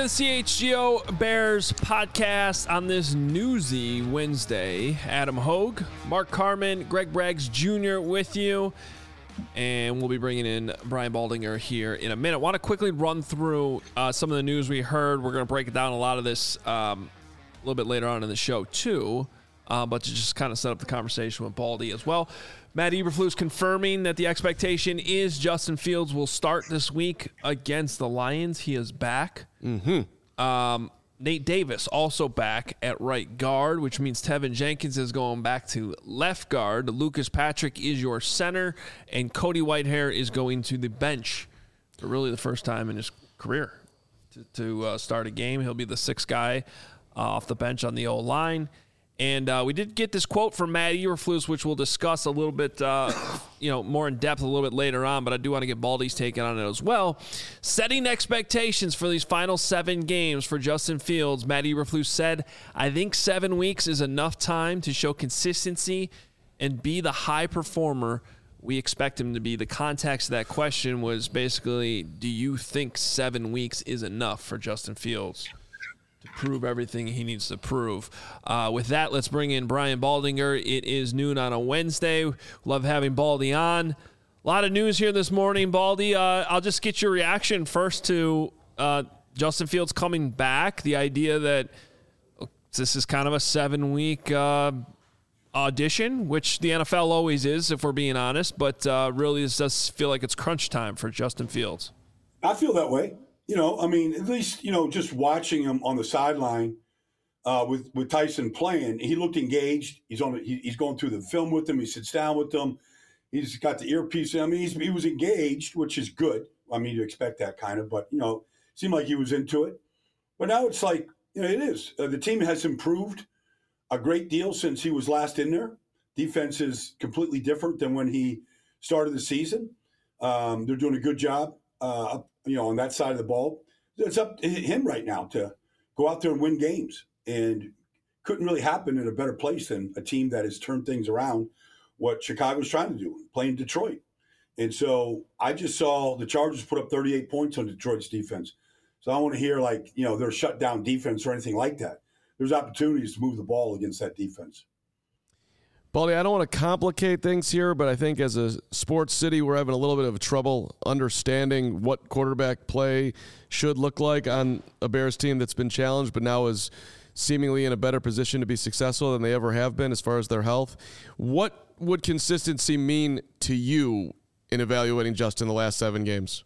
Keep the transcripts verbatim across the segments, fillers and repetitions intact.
into the C H G O Bears podcast on this newsy Wednesday. Adam Hogue, Mark Carman, Greg Braggs Junior with you. And we'll be bringing in Brian Baldinger here in a minute. I want to quickly run through uh, some of the news we heard. We're going to break down a lot of this um, a little bit later on in the show, too. Uh, but to just kind of set up the conversation with Baldy as well. Matt Eberflus confirming that the expectation is Justin Fields will start this week against the Lions. He is back. Mm-hmm. Um, Nate Davis also back at right guard, which means Tevin Jenkins is going back to left guard. Lucas Patrick is your center, and Cody Whitehair is going to the bench for really the first time in his career to, to uh, start a game. He'll be the sixth guy uh, off the bench on the O-line. And uh, we did get this quote from Matt Eberflus, which we'll discuss a little bit, uh, you know, more in depth a little bit later on. But I do want to get Baldy's take on it as well. Setting expectations for these final seven games for Justin Fields, Matt Eberflus said, "I think seven weeks is enough time to show consistency and be the high performer we expect him to be." The context of that question was basically, do you think seven weeks is enough for Justin Fields to prove everything he needs to prove? Uh, with that, let's bring in Brian Baldinger. It is noon on a Wednesday. Love having Baldy on. A lot of news here this morning, Baldy. Uh, I'll just get your reaction first to uh, Justin Fields coming back. The idea that this is kind of a seven-week uh, audition, which the N F L always is, if we're being honest. But uh, really, this does feel like it's crunch time for Justin Fields. I feel that way. You know, I mean, at least, you know, just watching him on the sideline uh, with, with Tyson playing, he looked engaged. He's on. He, he's going through the film with them. He sits down with them. He's got the earpiece. I mean, he's, he was engaged, which is good. I mean, you expect that kind of, but, you know, seemed like he was into it. But now it's like, you know, it is. Uh, the team has improved a great deal since he was last in there. Defense is completely different than when he started the season. Um, they're doing a good job. Uh, you know, on that side of the ball. It's up to him right now to go out there and win games. And couldn't really happen in a better place than a team that has turned things around, what Chicago's trying to do, playing Detroit. And so I just saw the Chargers put up thirty-eight points on Detroit's defense. So I don't want to hear, like, you know, they're shut down defense or anything like that. There's opportunities to move the ball against that defense. Baldy, I don't want to complicate things here, but I think as a sports city, we're having a little bit of trouble understanding what quarterback play should look like on a Bears team that's been challenged, but now is seemingly in a better position to be successful than they ever have been as far as their health. What would consistency mean to you in evaluating Justin the last seven games?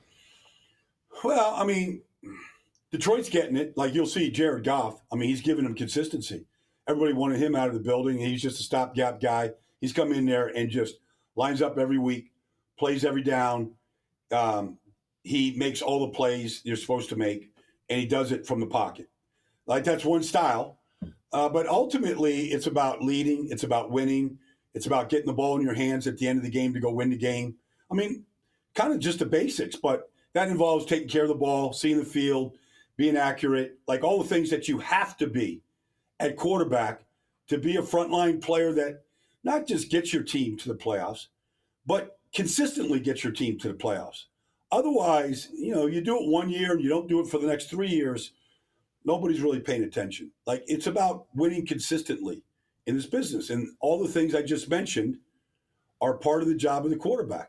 Well, I mean, Detroit's getting it. Like, you'll see Jared Goff. I mean, he's giving them consistency. Everybody wanted him out of the building. He's just a stopgap guy. He's come in there and just lines up every week, plays every down. Um, he makes all the plays you're supposed to make, and he does it from the pocket. Like, that's one style. Uh, but ultimately, it's about leading. It's about winning. It's about getting the ball in your hands at the end of the game to go win the game. I mean, kind of just the basics, but that involves taking care of the ball, seeing the field, being accurate, like all the things that you have to be at quarterback to be a frontline player that not just gets your team to the playoffs, but consistently gets your team to the playoffs. Otherwise, you know, you do it one year and you don't do it for the next three years, nobody's really paying attention. Like, it's about winning consistently in this business. And all the things I just mentioned are part of the job of the quarterback.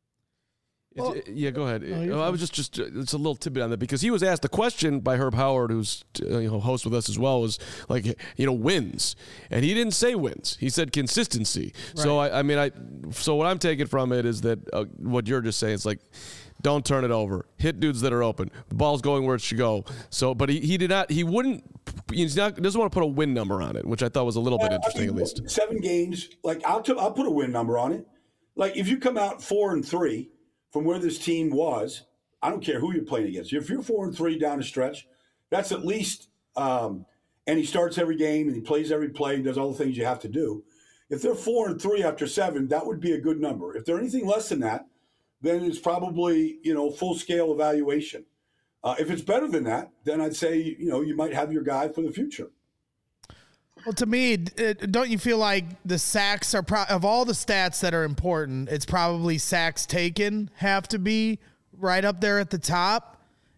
Well, yeah, go ahead. No, I was just, just it's a little tidbit on that because he was asked a question by Herb Howard, who's uh, you know host with us as well, was like, you know, wins, and he didn't say wins. He said consistency. Right. So I, I mean, I so what I'm taking from it is that uh, what you're just saying is like, don't turn it over. Hit dudes that are open. The ball's going where it should go. So, but he, he did not. He wouldn't. He's not. Doesn't want to put a win number on it, which I thought was a little yeah, bit interesting, I mean, at least. Seven games. Like, I'll t- I'll put a win number on it. Like, if you come out four and three. From where this team was, I don't care who you're playing against. If you're four and three down the stretch, that's at least. Um, and he starts every game and he plays every play and does all the things you have to do. If they're four and three after seven, that would be a good number. If they're anything less than that, then it's probably, you know, full scale evaluation. Uh, if it's better than that, then I'd say, you know, you might have your guy for the future. Well, to me, it, don't you feel like the sacks are pro- of all the stats that are important, it's probably sacks taken have to be right up there at the top.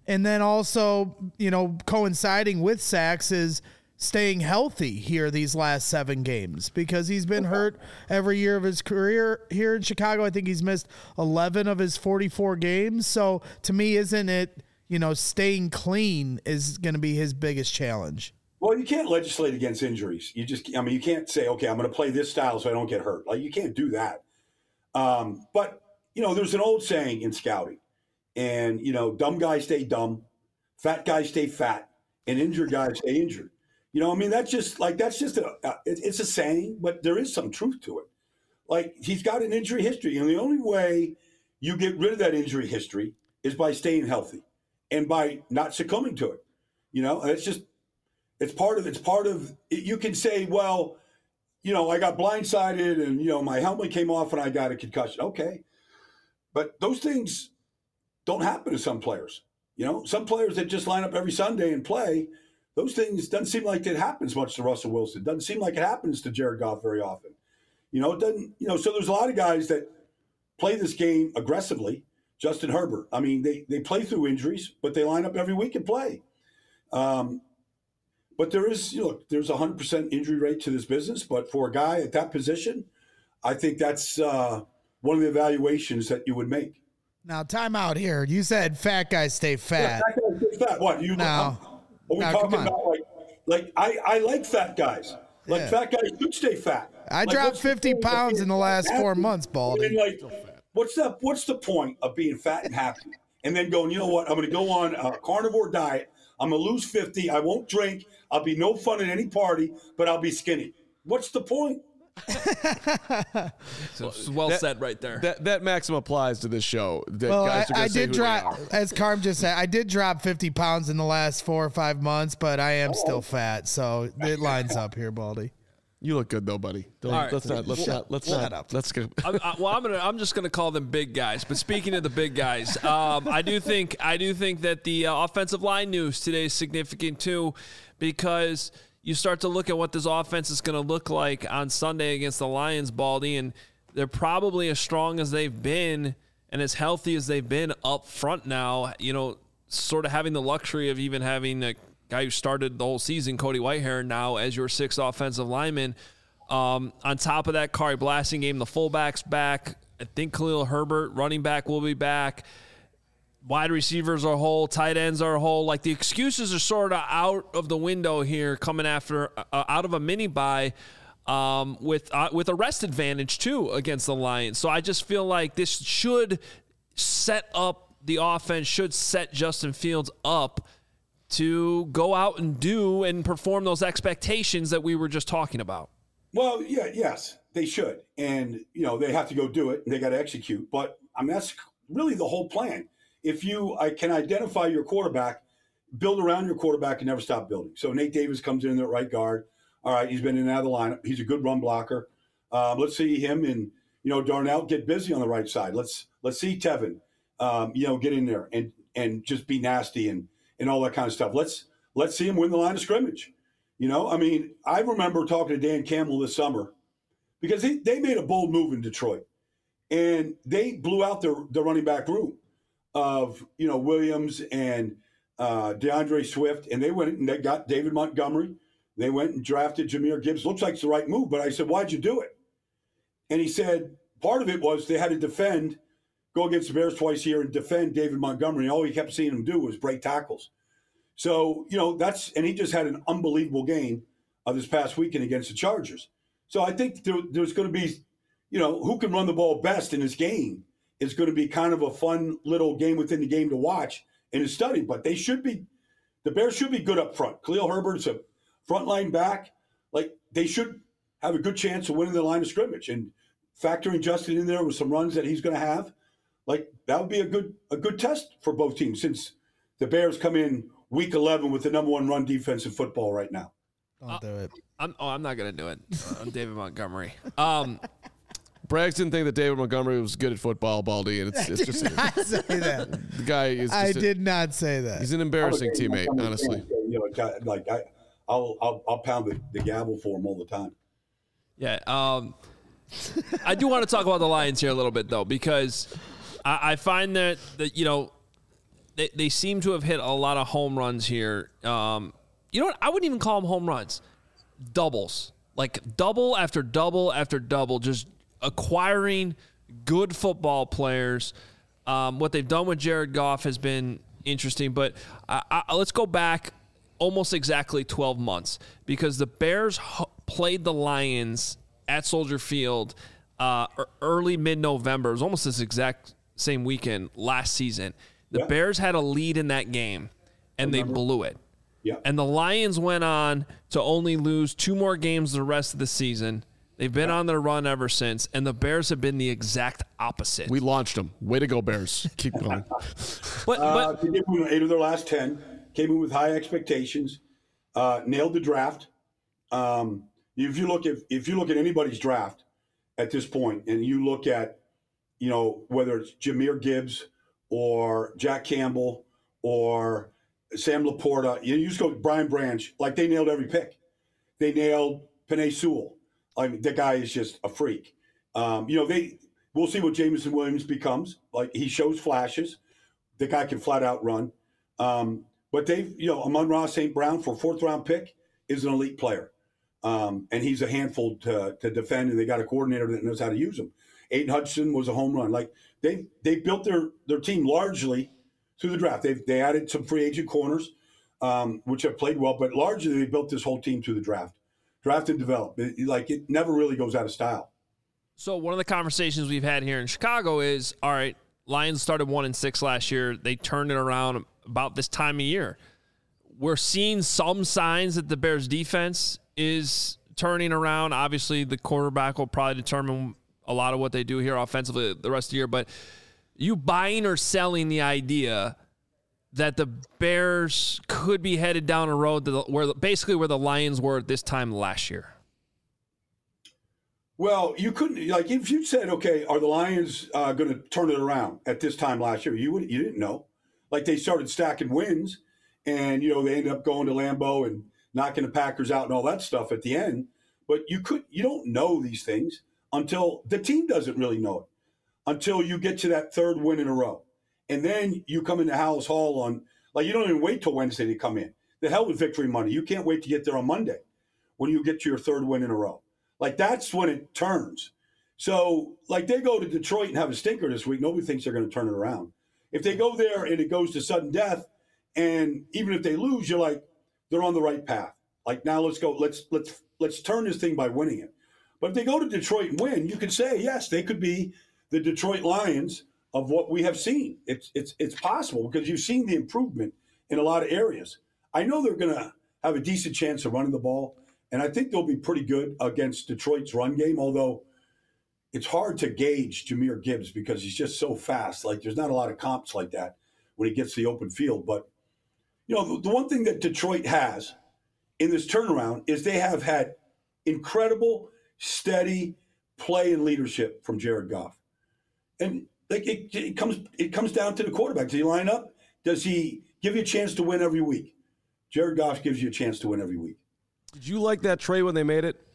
And then also, you know, coinciding with sacks is staying healthy here these last seven games because he's been hurt every year of his career here in Chicago. I think he's missed eleven of his forty-four games. So to me, isn't it, you know, staying clean is going to be his biggest challenge? Well, you can't legislate against injuries. You just, I mean, you can't say, okay, I'm going to play this style so I don't get hurt. Like, you can't do that. Um, but, you know, there's an old saying in scouting, and, you know, dumb guys stay dumb, fat guys stay fat, and injured guys stay injured. You know, I mean, that's just like, that's just a, uh, it, it's a saying, but there is some truth to it. Like, he's got an injury history, and the only way you get rid of that injury history is by staying healthy and by not succumbing to it. You know, and it's just, it's part of, it's part of, you can say, well, you know, I got blindsided and, you know, my helmet came off and I got a concussion. Okay. But those things don't happen to some players. You know, some players that just line up every Sunday and play, those things doesn't seem like it happens much to Russell Wilson. Doesn't seem like it happens to Jared Goff very often. You know, it doesn't, you know, so there's a lot of guys that play this game aggressively. Justin Herbert. I mean, they, they play through injuries, but they line up every week and play. Um, but there is, you know, there's a one hundred percent injury rate to this business. But for a guy at that position, I think that's uh, one of the evaluations that you would make. Now, time out here. You said fat guys stay fat. Yeah, fat guys stay fat. What? You, no. Are we no, talking about like, like I, I like fat guys. Like yeah. Fat guys should stay fat. I like, dropped fifty pounds in the last four months, Baldy. I mean, like, what's the, what's the point of being fat and happy? And then going, you know what? I'm going to go on a carnivore diet. I'm going to lose fifty. I won't drink. I'll be no fun at any party, but I'll be skinny. What's the point? So well that, said right there. That that maxim applies to this show. That well, guys I, I did drop, as as Carm just said, I did drop fifty pounds in the last four or five months, but I am oh. still fat, so it lines up here, Baldy. You look good though, buddy. Don't, right. Let's not. Let's well, not. Let's well, not. Up. Let's go. I, I, well, I'm gonna. I'm just gonna call them big guys. But speaking of the big guys, um, I do think. I do think that the uh, offensive line news today is significant too, because you start to look at what this offense is going to look like on Sunday against the Lions, Baldy, and they're probably as strong as they've been and as healthy as they've been up front now. You know, sort of having the luxury of even having a guy who started the whole season, Cody Whitehair, now as your sixth offensive lineman. Um, on top of that, Kari Blasingame, the fullback's back. I think Khalil Herbert, running back, will be back. Wide receivers are whole, tight ends are whole. Like, the excuses are sort of out of the window here, coming after uh, out of a mini bye um, with uh, with a rest advantage too against the Lions. So I just feel like this should set up the offense, should set Justin Fields up to go out and do and perform those expectations that we were just talking about. Well, yeah, yes, they should, and you know they have to go do it, and they got to execute. But I mean, that's really the whole plan. If you I can identify your quarterback, build around your quarterback and never stop building. So Nate Davis comes in at right guard. All right, he's been in and out of the lineup. He's a good run blocker. Uh, let's see him and you know Darnell get busy on the right side. Let's let's see Tevin, um, you know, get in there and and just be nasty and and all that kind of stuff. Let's let's see him win the line of scrimmage. You know, I mean, I remember talking to Dan Campbell this summer because he, they made a bold move in Detroit, and they blew out their the running back room of, you know, Williams and uh, DeAndre Swift, and they went and they got David Montgomery. They went and drafted Jahmyr Gibbs. Looks like it's the right move, but I said, why'd you do it? And he said, part of it was they had to defend, go against the Bears twice a year and defend David Montgomery. And all he kept seeing him do was break tackles. So, you know, that's, and he just had an unbelievable game of this past weekend against the Chargers. So I think there, there's going to be, you know, who can run the ball best in this game is going to be kind of a fun little game within the game to watch and to study. But they should be, the Bears should be good up front. Khalil Herbert's a frontline back. Like, they should have a good chance of winning the line of scrimmage. And factoring Justin in there with some runs that he's going to have, like, that would be a good a good test for both teams since the Bears come in week eleven with the number one run defense in football right now. Don't uh, do it. I'm, oh, I'm not going to do it. Uh, I'm David Montgomery. Um, Braggs didn't think that David Montgomery was good at football, Baldy, and it's, it's I just did not say that. The guy is. Just I a, did not say that. He's an embarrassing teammate, honestly. You know, like I, I'll I'll, I'll pound the, the gavel for him all the time. Yeah, um, I do want to talk about the Lions here a little bit though, because I, I find that that you know they, they seem to have hit a lot of home runs here. Um, you know what? I wouldn't even call them home runs. Doubles. Like double after double after double, just acquiring good football players. Um, what they've done with Jared Goff has been interesting, but I, I, let's go back almost exactly twelve months, because the Bears ho- played the Lions at Soldier Field uh, early mid-November. It was almost this exact same weekend last season. The yeah. Bears had a lead in that game, and they blew it. Yeah. And the Lions went on to only lose two more games the rest of the season. They've been yeah. on their run ever since, and the Bears have been the exact opposite. We launched them. Way to go, Bears. Keep going. but, uh, but, they did win eight of their last ten. Came in with high expectations. Uh, nailed the draft. Um, if you look at if you look at anybody's draft at this point, and you look at, you know, whether it's Jahmyr Gibbs or Jack Campbell or Sam Laporta, you, you just go Brian Branch, like they nailed every pick. They nailed Penei Sewell. I mean, that guy is just a freak. Um, you know, they we'll see what Jameson Williams becomes. Like, he shows flashes. The guy can flat out run. Um, but they've, you know, Amon-Ra Saint Brown, for a fourth round pick, is an elite player. Um, and he's a handful to, to defend, and they got a coordinator that knows how to use him. Aiden Hudson was a home run. Like, they they built their, their team largely through the draft. They've they added some free agent corners, um, which have played well, but largely they built this whole team through the draft. Draft and develop. It, like, it never really goes out of style. So one of the conversations we've had here in Chicago is, all right, Lions started one and six last year. They turned it around about this time of year. We're seeing some signs that the Bears defense is turning around. Obviously, the quarterback will probably determine a lot of what they do here offensively the rest of the year. But you buying or selling the idea that the Bears could be headed down a road to the, where basically where the Lions were at this time last year? Well, you couldn't, like, if you said, okay, are the Lions uh, going to turn it around at this time last year? You would, you didn't know. Like, they started stacking wins, and, you know, they ended up going to Lambeau and knocking the Packers out and all that stuff at the end. But you could, you don't know these things until the team doesn't really know it, until you get to that third win in a row. And then you come into Hallis Hall on, like, you don't even wait till Wednesday to come in. The hell with victory Monday. You can't wait to get there on Monday when you get to your third win in a row. Like, that's when it turns. So, like, they go to Detroit and have a stinker this week. Nobody thinks they're going to turn it around. If they go there and it goes to sudden death, and even if they lose, you're like, they're on the right path. Like, now let's go. Let's let's let's turn this thing by winning it. But if they go to Detroit and win, you could say, yes, they could be the Detroit Lions of what we have seen. It's it's it's possible, because you've seen the improvement in a lot of areas. I know they're going to have a decent chance of running the ball, and I think they'll be pretty good against Detroit's run game, although it's hard to gauge Jahmyr Gibbs because he's just so fast. Like, there's not a lot of comps like that when he gets to the open field. But, you know, the, the one thing that Detroit has in this turnaround is they have had incredible, steady play and leadership from Jared Goff. And like it, it comes it comes down to the quarterback. Does he line up? Does he give you a chance to win every week? Jared Goff gives you a chance to win every week. Did you like that trade when they made it?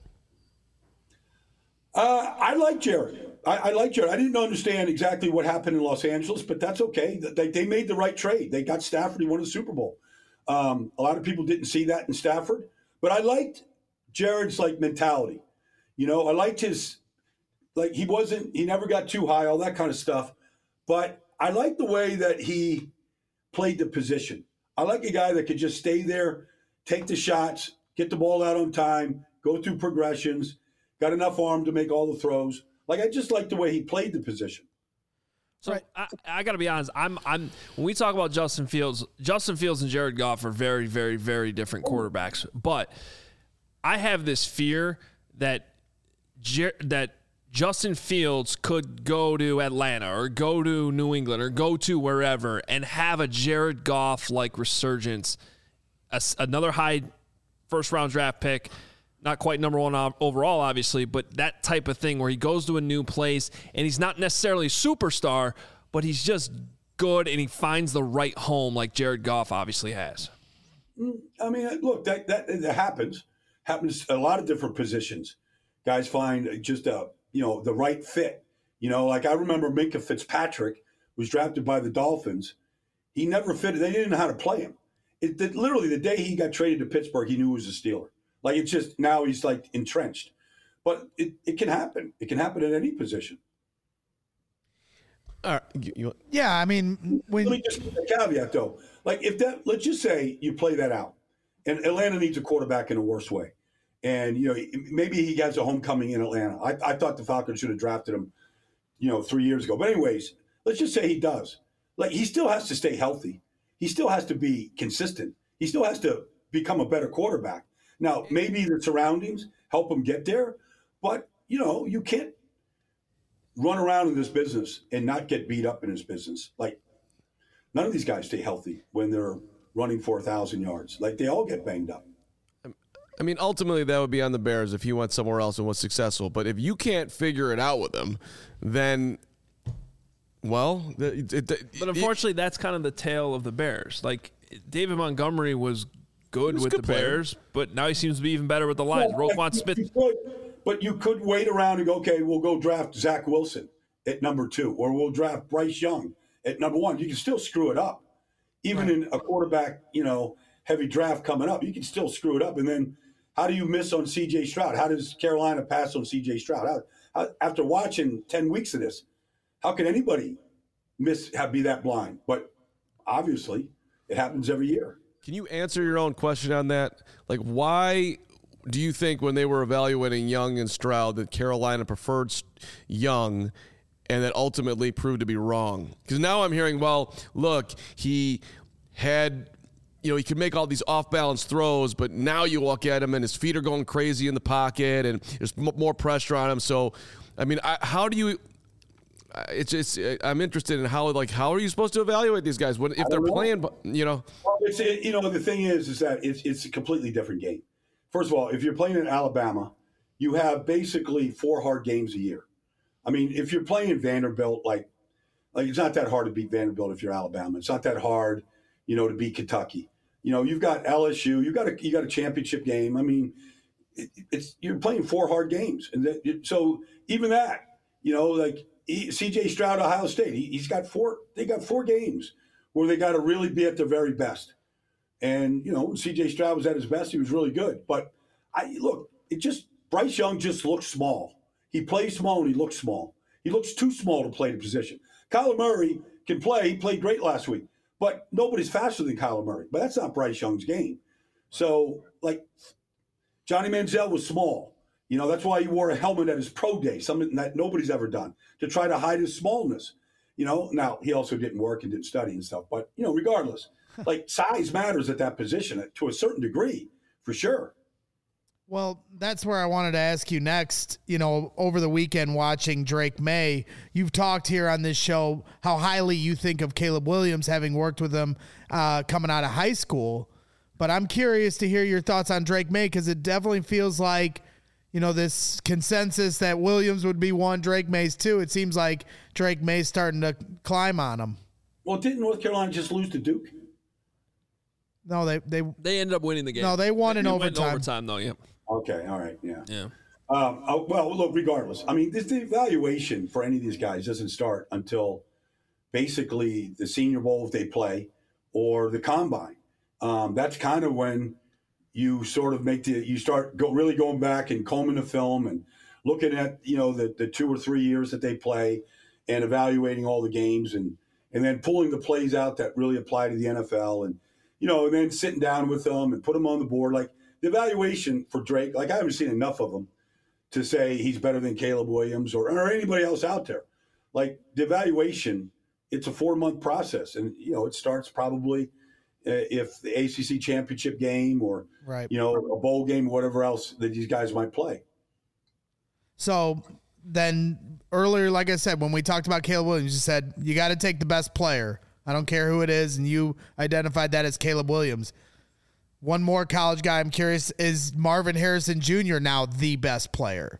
Uh, I like Jared. I, I like Jared. I didn't understand exactly what happened in Los Angeles, but that's okay. They, they made the right trade. They got Stafford. He won the Super Bowl. Um, a lot of people didn't see that in Stafford, but I liked Jared's like mentality. You know, I liked his, like, he wasn't, he never got too high, all that kind of stuff. But I like the way that he played the position. I like a guy that could just stay there, take the shots, get the ball out on time, go through progressions, got enough arm to make all the throws. Like, I just like the way he played the position. So right. I, I got to be honest. I'm I'm when we talk about Justin Fields, Justin Fields and Jared Goff are very, very, very different quarterbacks. But I have this fear that Jer- that Justin Fields could go to Atlanta or go to New England or go to wherever and have a Jared Goff like resurgence, a, another high first round draft pick. Not quite number one overall, obviously, but that type of thing where he goes to a new place and he's not necessarily a superstar, but he's just good and he finds the right home like Jared Goff obviously has. I mean, look, that that, that happens. Happens a lot of different positions. Guys find just a, you know, the right fit. You know, like I remember Minkah Fitzpatrick was drafted by the Dolphins, He never fitted. They didn't know how to play him. It, it, literally, the day he got traded to Pittsburgh, he knew he was a Steeler. Like, it's just now he's like entrenched. But it, it can happen. It can happen at any position. All right. You, you, Yeah, I mean, when Let me just put a caveat, though. Like, if that, let's just say you play that out, and Atlanta needs a quarterback in a worse way. And, you know, maybe he has a homecoming in Atlanta. I, I thought the Falcons should have drafted him, you know, three years ago. But anyways, let's just say he does. Like, he still has to stay healthy. He still has to be consistent. He still has to become a better quarterback. Now, maybe the surroundings help him get there, but, you know, you can't run around in this business and not get beat up in this business. Like, none of these guys stay healthy when they're running for a thousand yards. Like, they all get banged up. I mean, ultimately, that would be on the Bears if he went somewhere else and was successful. But if you can't figure it out with him, then, well, it, it, it, But unfortunately, that's kind of the tale of the Bears. Like, David Montgomery was good was with a good the player. Bears, but now he seems to be even better with the Lions. Well, Roquan you- Smith. you could, but you could wait around and go, okay, we'll go draft Zach Wilson at number two, or we'll draft Bryce Young at number one. You can still screw it up. Even Right. in a quarterback, you know, heavy draft coming up, you can still screw it up. And then how do you miss on C J Stroud? How does Carolina pass on C J Stroud? How, how, after watching ten weeks of this, how can anybody miss have be that blind? But obviously, it happens every year. Can you answer your own question on that? Like, why do you think when they were evaluating Young and Stroud that Carolina preferred Young and that ultimately proved to be wrong? Because now I'm hearing, well, look, he had, you know, he could make all these off-balance throws, but now you look at him and his feet are going crazy in the pocket and there's m- more pressure on him. So, I mean, I, how do you – it's it's. I'm interested in how like how are you supposed to evaluate these guys when if they're know. playing, you know? Well, it's, it, you know, the thing is, is that it's it's a completely different game. First of all, if you're playing in Alabama, you have basically four hard games a year. I mean, if you're playing Vanderbilt, like, like it's not that hard to beat Vanderbilt if you're Alabama. It's not that hard, you know, to beat Kentucky. You know, you've got L S U, you got a you got a championship game. I mean, it, it's you're playing four hard games, and that, so even that, you know, like he, C J Stroud, Ohio State, he, he's got four. They got four games where they got to really be at their very best. And you know, when C J Stroud was at his best, he was really good. But I look, it just Bryce Young just looks small. He plays small and he looks small. He looks too small to play the position. Kyler Murray can play. He played great last week. But nobody's faster than Kyler Murray. But that's not Bryce Young's game. So, like, Johnny Manziel was small. You know, that's why he wore a helmet at his pro day, something that nobody's ever done, to try to hide his smallness. You know, now, he also didn't work and didn't study and stuff. But, you know, regardless, like, size matters at that position to a certain degree, for sure. Well, that's where I wanted to ask you next. You know, over the weekend watching Drake May, you've talked here on this show how highly you think of Caleb Williams, having worked with him uh, coming out of high school. But I'm curious to hear your thoughts on Drake May, because it definitely feels like, you know, this consensus that Williams would be one, Drake May's two. It seems like Drake May's starting to climb on him. Well, didn't North Carolina just lose to Duke? No, they they They ended up winning the game. No, they won in They went overtime. overtime, though, yep. Okay, all right, yeah. Yeah. Um, uh, well, look, regardless, I mean, this, the evaluation for any of these guys doesn't start until basically the Senior Bowl if they play or the Combine. Um, that's kind of when you sort of make the you start go really going back and combing the film and looking at you know the the two or three years that they play and evaluating all the games and and then pulling the plays out that really apply to the N F L and you know and then sitting down with them and put them on the board. Like the evaluation for Drake, like I haven't seen enough of them to say he's better than Caleb Williams or, or anybody else out there. Like the evaluation, it's a four month process, and you know it starts probably uh, if the A C C championship game or right. you know a bowl game or whatever else that these guys might play. So then earlier, like I said, when we talked about Caleb Williams, you said you got to take the best player. I don't care who it is, and you identified that as Caleb Williams. One more college guy I'm curious, is Marvin Harrison Junior now the best player?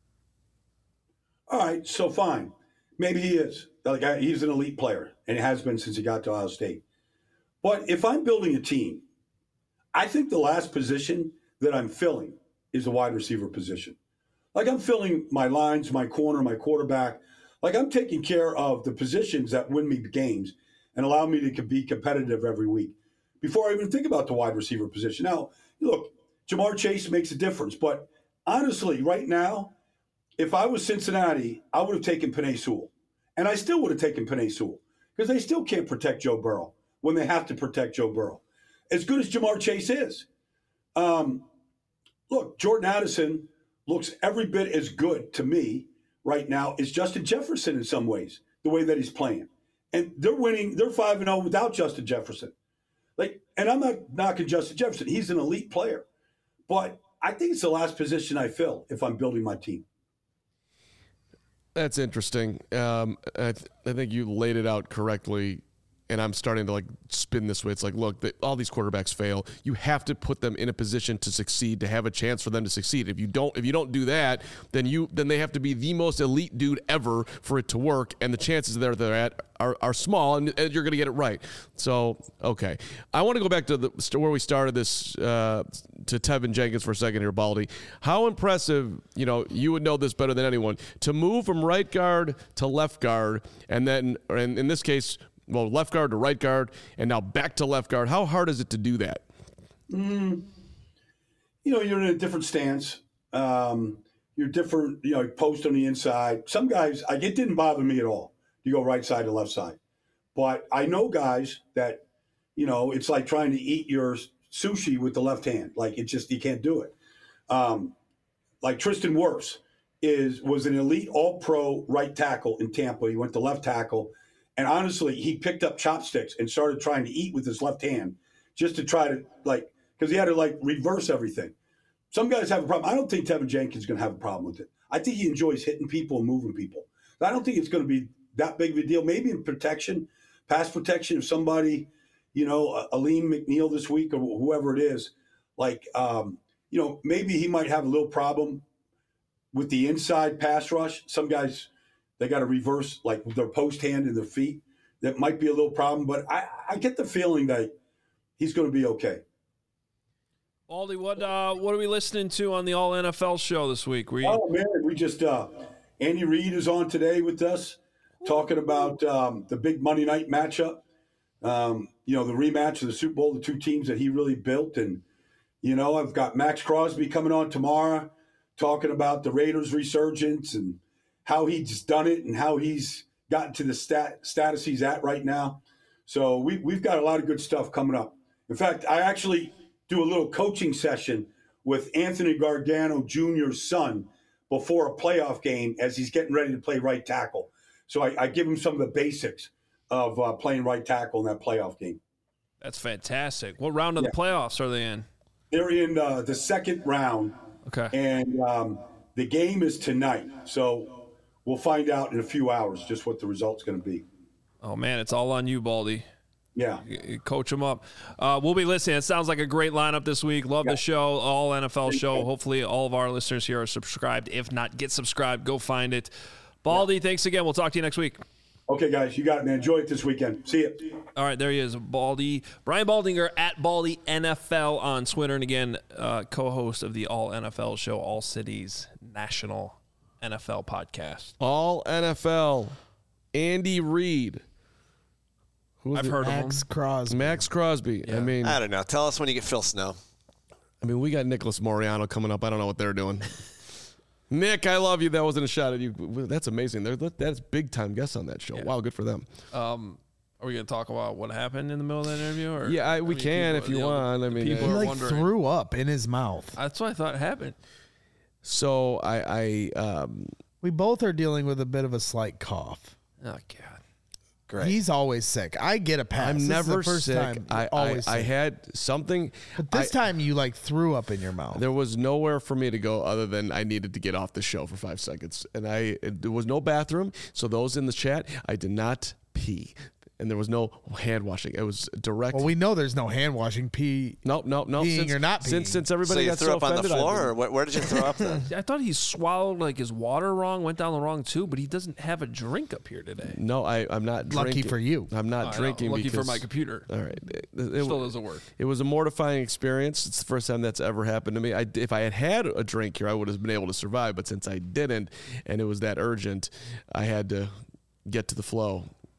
All right, so fine. Maybe he is. Like I, he's an elite player, and has been since he got to Ohio State. But if I'm building a team, I think the last position that I'm filling is the wide receiver position. Like I'm filling my lines, my corner, my quarterback. Like I'm taking care of the positions that win me games. and allow me to be competitive every week before I even think about the wide receiver position. Now, look, Jamar Chase makes a difference, but honestly, right now, if I was Cincinnati, I would have taken Penei Sewell. And I still would have taken Penei Sewell because they still can't protect Joe Burrow when they have to protect Joe Burrow. As good as Jamar Chase is. Um, look, Jordan Addison looks every bit as good to me right now as Justin Jefferson in some ways, the way that he's playing. And they're winning, they're five and oh without Justin Jefferson. Like, and I'm not knocking Justin Jefferson. He's an elite player. But I think it's the last position I fill if I'm building my team. That's interesting. Um, I, th- I think you laid it out correctly, and I'm starting to like spin this way. It's like, look, the, all these quarterbacks fail. You have to put them in a position to succeed, to have a chance for them to succeed. If you don't, if you don't do that, then you then they have to be the most elite dude ever for it to work, and the chances there they're at are, are small, and, and you're going to get it right. So, okay, I want to go back to the where we started this uh, to Tevin Jenkins for a second here, Baldy. How impressive, you know, you would know this better than anyone, to move from right guard to left guard, and then, or in, in this case, well, left guard to right guard, and now back to left guard. How hard is it to do that? Mm, you know, you're in a different stance. Um, you're different, you know, post on the inside. Some guys, like, it didn't bother me at all to go right side to left side. But I know guys that, you know, it's like trying to eat your sushi with the left hand. Like, it just, you can't do it. Um, like Tristan Wirfs is was an elite all-pro right tackle in Tampa. He went to left tackle. And honestly, he picked up chopsticks and started trying to eat with his left hand just to try to, like, because he had to, like, reverse everything. Some guys have a problem. I don't think Tevin Jenkins is going to have a problem with it. I think he enjoys hitting people and moving people. I don't think it's going to be that big of a deal. Maybe in protection, pass protection, if somebody, you know, Aleem McNeil this week or whoever it is, like, um, you know, maybe he might have a little problem with the inside pass rush. Some guys – they got to reverse, like, their post hand and their feet. That might be a little problem, but I, I get the feeling that he's going to be okay. Baldy, what uh, what are we listening to on the All N F L show this week? Were you- oh, man, we just uh, – Andy Reid is on today with us talking about um, the big Monday night matchup, um, you know, the rematch of the Super Bowl, the two teams that he really built. And, you know, I've got Max Crosby coming on tomorrow talking about the Raiders' resurgence and how he's done it and how he's gotten to the stat, status he's at right now. So we, we've got a lot of good stuff coming up. In fact, I actually do a little coaching session with Anthony Gargano Junior's son before a playoff game as he's getting ready to play right tackle. So I, I give him some of the basics of uh, playing right tackle in that playoff game. That's fantastic. What round of yeah. the playoffs are they in? They're in uh, the second round. Okay. And um, the game is tonight. So we'll find out in a few hours just what the result's going to be. Oh, man, it's all on you, Baldy. Yeah. You coach them up. Uh, we'll be listening. It sounds like a great lineup this week. Love yeah. the show, all N F L show. Hopefully all of our listeners here are subscribed. If not, get subscribed. Go find it. Baldy, yeah. thanks again. We'll talk to you next week. Okay, guys. You got it, man. Enjoy it this weekend. See you. All right, there he is, Baldy. Brian Baldinger at Baldy N F L on Twitter. And again, uh, co-host of the All N F L show, All Cities National N F L podcast. All N F L. Andy Reid. I've it? heard Max of him. Crosby. Max Crosby. Yeah. I mean, I don't know. Tell us when you get Phil Snow. I mean, we got Nicholas Moriano coming up. I don't know what they're doing. Nick, I love you. That wasn't a shot at you. That's amazing. They're, that's big time guests on that show. Yeah. Wow, good for them. Um, are we going to talk about what happened in the middle of that interview? Or yeah, I, we I mean, can people, if you, you know, want. I mean, he uh, like wondering. threw up in his mouth. That's what I thought happened. So I, I um, we both are dealing with a bit of a slight cough. Oh God. Great. He's always sick. I get a pass. I'm This never is the first sick. Time I, always I, I sick. had something. But this I, time you like threw up in your mouth. There was nowhere for me to go other than I needed to get off the show for five seconds. And I it, there was no bathroom. So those in the chat, I did not pee. And there was no hand washing. It was direct. Well, we know there's no hand washing. Pee. Nope, nope, nope. Peeing Since, or not peeing. Since, since So everybody you got threw so up on the offended, I floor, didn't. or where, where did you throw up then? I thought he swallowed like his water wrong, went down the wrong tube, but he doesn't have a drink up here today. No, I, I'm not Lucky drinking. for you. I'm not I drinking know. Lucky because for my computer. All right, it, it, Still doesn't work. It was a mortifying experience. It's the first time that's ever happened to me. I, if I had had a drink here, I would have been able to survive. But since I didn't, and it was that urgent, I had to get to the flow.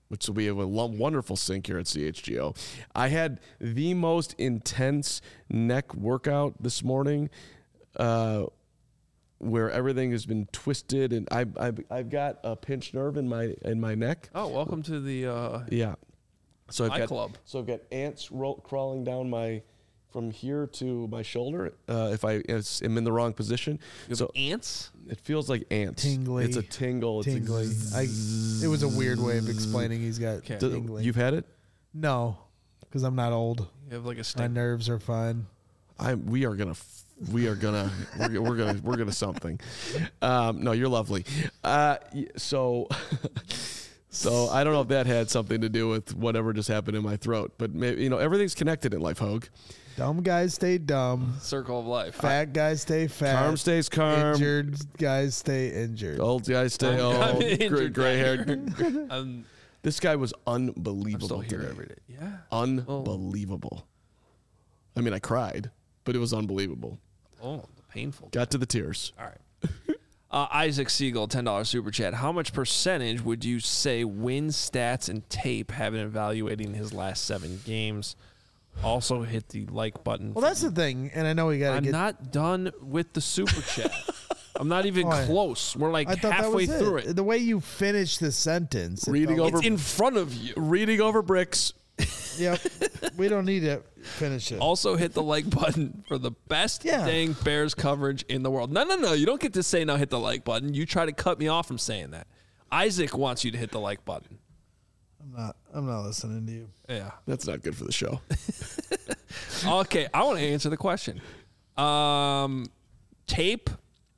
which will be a wonderful sync here at C H G O. I had the most intense neck workout this morning, uh, where everything has been twisted, and I, I've I've got a pinched nerve in my in my neck. Oh, welcome to the uh, Yeah. So I've my got club. so I've got ants ro- crawling down my from here to my shoulder. Uh, if I if am in the wrong position, You have so ants. it feels like ants. Tingly. It's a tingle. It's Tingly. A I, it was a weird way of explaining he's got Okay. D- tingly. You've had it. No, because I'm not old. You have like a My sting. nerves are fine. I we are gonna f- we are gonna we're, we're gonna we're gonna something. Um, no, you're lovely. Uh, y- so so I don't know if that had something to do with whatever just happened in my throat, but maybe, you know, everything's connected in life, Hogue. Dumb guys stay dumb. Circle of life. Fat guys stay fat. Carm stays calm. Injured guys stay injured. Old guys stay I'm old. Gray, injured gray that haired. I'm, This guy was I'm unbelievable. still here today. every day. Yeah. Unbelievable. I mean, I cried, but it was unbelievable. Oh, painful. Got to the tears. All right. Uh, Isaac Siegel, ten dollars super chat. How much percentage would you say win stats and tape have in evaluating his last seven games? Also hit the like button. Well, that's the thing, and I know we got to I'm get. not done with the super chat. I'm not even Oh, I- close. We're like I thought halfway that was through it. it. The way you finished the sentence. it Reading felt- over- It's in front of you. Reading over bricks. Yep. We don't need to finish it. Also hit the like button for the best Yeah. dang Bears coverage in the world. No, no, no. You don't get to say now hit the like button. You try to cut me off from saying that. Isaac wants you to hit the like button. I'm not. I'm not listening to you. Yeah. That's not good for the show. Okay, I want to answer the question. Um, tape,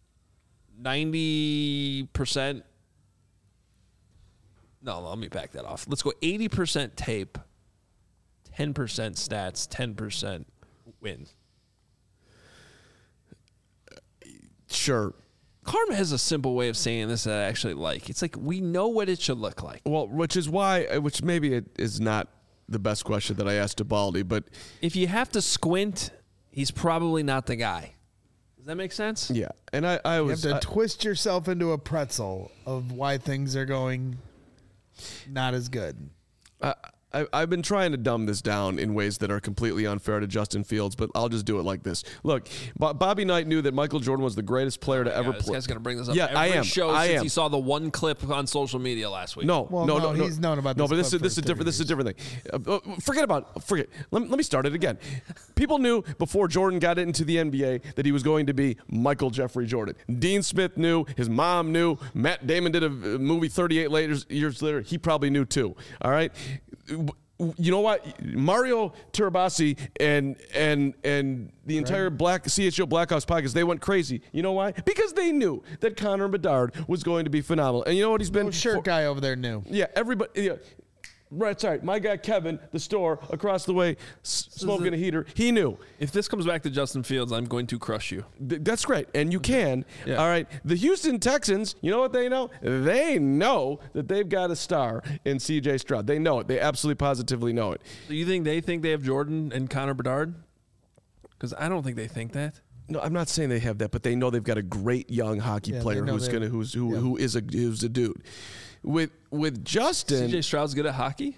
ninety percent. No, let me back that off. Let's go eighty percent tape, ten percent stats, ten percent wins. Sure. Karma has a simple way of saying this that I actually like. It's like we know what it should look like. Well, which is why, which maybe it is not the best question that I asked to Baldy, but If you have to squint, he's probably not the guy. Does that make sense? yeah. And I, I You was, have to I- twist yourself into a pretzel of why things are going not as good. I, I, I've been trying to dumb this down in ways that are completely unfair to Justin Fields, but I'll just do it like this. Look, Bo- Bobby Knight knew that Michael Jordan was the greatest player to ever Yeah, this play. guy's going to bring this up Yeah, every I am. show I since am. he saw the one clip on social media last week. No, Well, no, no, no, he's known about no, this but this is clip this is for different. This is a thirty different thing. Uh, uh, forget about forget. Let me, let me start it again. People knew before Jordan got into the N B A that he was going to be Michael Jeffrey Jordan. Dean Smith knew. His mom knew. Matt Damon did a movie thirty-eight later, years later. He probably knew too. All right. You know what? Mario Turabasi and and and the entire Black C H O Blackhawks podcast, they went crazy. You know why? Because they knew that Connor Bedard was going to be phenomenal. And you know what he's been? Oh, shirt for- guy over there knew. Yeah, everybody. Yeah. Right, sorry. My guy Kevin, the store across the way, s- smoking a heater. He knew. If this comes back to Justin Fields, I'm going to crush you. Th- That's great, and you can. Yeah. All right. The Houston Texans, you know what they know? They know that they've got a star in C J Stroud. They know it. They absolutely positively know it. Do you think they think they have Jordan and Connor Bedard? Because I don't think they think that. No, I'm not saying they have that, but they know they've got a great young hockey Yeah, they player know who's they- gonna who's who, yeah. who is a who's a dude. With with Justin, C J Stroud's good at hockey?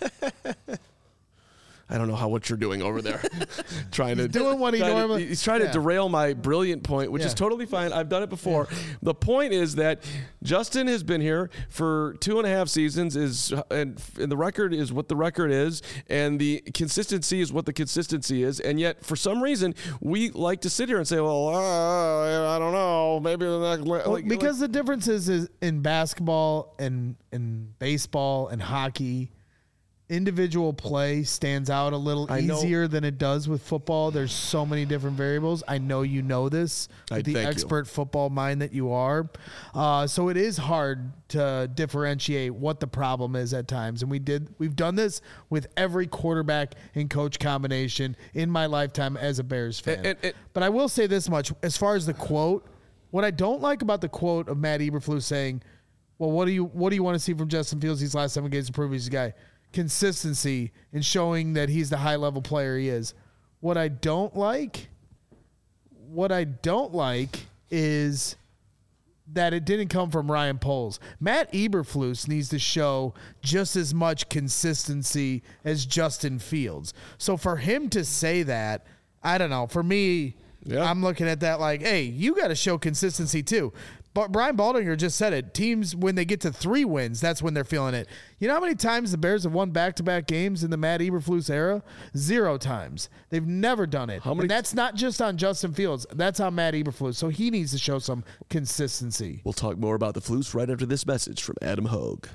I don't know how what you're doing over there. trying to He's doing what he trying to- normally- he's trying Yeah. to derail my brilliant point, which is Yeah. totally fine. I've done it before. The point is that Justin has been here for two and a half seasons, is and, and the record is what the record is, and the consistency is what the consistency is, and yet for some reason we like to sit here and say, well, uh, I don't know, maybe they're not like, Well, like- because the difference is, is in basketball and in baseball and hockey, individual play stands out a little I know. easier than it does with football. There's so many different variables. I know you know this, I with the thank you. expert football mind that you are. Uh, so it is hard to differentiate what the problem is at times. And we did we've done this with every quarterback and coach combination in my lifetime as a Bears fan. And- and- and- but I will say this much as far as the quote. What I don't like about the quote of Matt Eberflus saying, "Well, what do you what do you want to see from Justin Fields these last seven games to prove he's a guy?" Consistency in showing that he's the high level player he is. What I don't like, what I don't like is that it didn't come from Ryan Poles. Matt Eberflus needs to show just as much consistency as Justin Fields. So for him to say that, I don't know. For me, yeah. I'm looking at that like, hey, you got to show consistency too. But Brian Baldinger just said it. Teams, when they get to three wins, that's when they're feeling it. You know how many times the Bears have won back-to-back games in the Matt Eberflus era? Zero times. They've never done it. How many? And that's not just on Justin Fields. That's on Matt Eberflus. So he needs to show some consistency. We'll talk more about the Flus right after this message from Adam Hogue.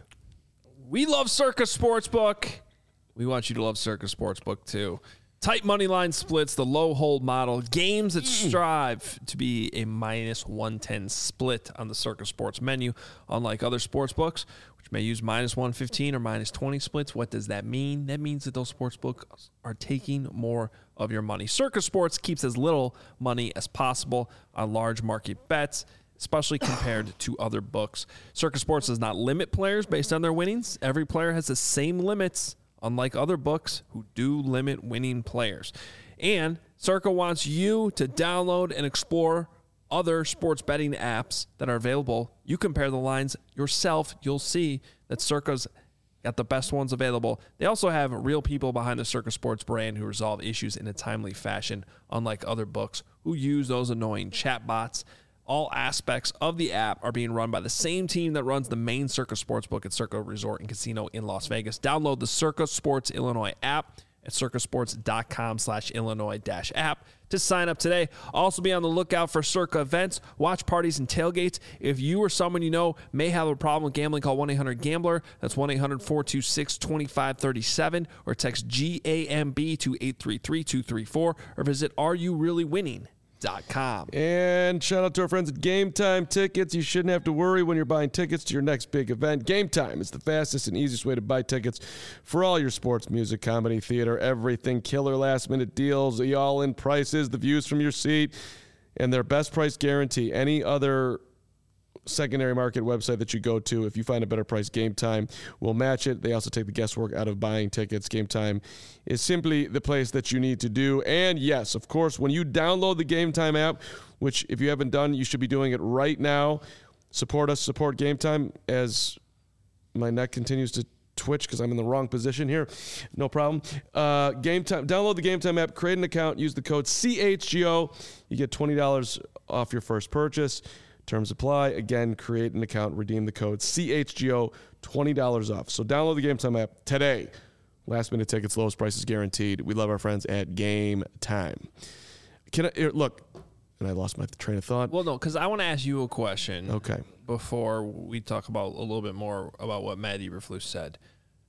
We love Circa Sportsbook. We want you to love Circa Sportsbook too. Tight money line splits, the low hold model, games that strive to be a minus one ten split on the Circa Sports menu. Unlike other sports books, which may use minus one fifteen or minus twenty splits, what does that mean? That means that those sports books are taking more of your money. Circa Sports keeps as little money as possible on large market bets, especially compared to other books. Circa Sports does not limit players based on their winnings. Every player has the same limits, unlike other books who do limit winning players. And Circa wants you to download and explore other sports betting apps that are available. You compare the lines yourself. You'll see that Circa's got the best ones available. They also have real people behind the Circa Sports brand who resolve issues in a timely fashion, unlike other books who use those annoying chatbots. All aspects of the app are being run by the same team that runs the main Circa Sportsbook at Circa Resort and Casino in Las Vegas. Download the Circa Sports Illinois app at circasports.com slash Illinois dash app to sign up today. Also be on the lookout for Circa events, watch parties, and tailgates. If you or someone you know may have a problem with gambling, call one eight hundred gambler. That's one eight hundred four two six two five three seven or text G A M B to eight three three two three four or visit Are You Really Winning? Dot com. And shout out to our friends at Game Time Tickets. You shouldn't have to worry when you're buying tickets to your next big event. Game Time is the fastest and easiest way to buy tickets for all your sports, music, comedy, theater, everything. Killer last minute deals, the all-in prices, the views from your seat, and their best price guarantee. Any other secondary market website that you go to, if you find a better price, Game Time will match it. They also take the guesswork out of buying tickets. Game Time is simply the place that you need to do. And yes, of course, when you download the Game Time app, which if you haven't done, you should be doing it right now. Support us, support Game Time as my neck continues to twitch because I'm in the wrong position here. No problem. Uh, Game Time. Download the Game Time app, create an account, use the code C H G O. You get twenty dollars off your first purchase. Terms apply. Again, create an account, redeem the code C H G O, twenty dollars off. So download the Game Time app today. Last minute tickets, lowest prices guaranteed. We love our friends at Game Time. Can I here, look? And I lost my train of thought. Well, no, because I want to ask you a question. Okay. Before we talk about a little bit more about what Matt Eberflus said,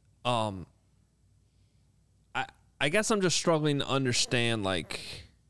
um, I I guess I'm just struggling to understand like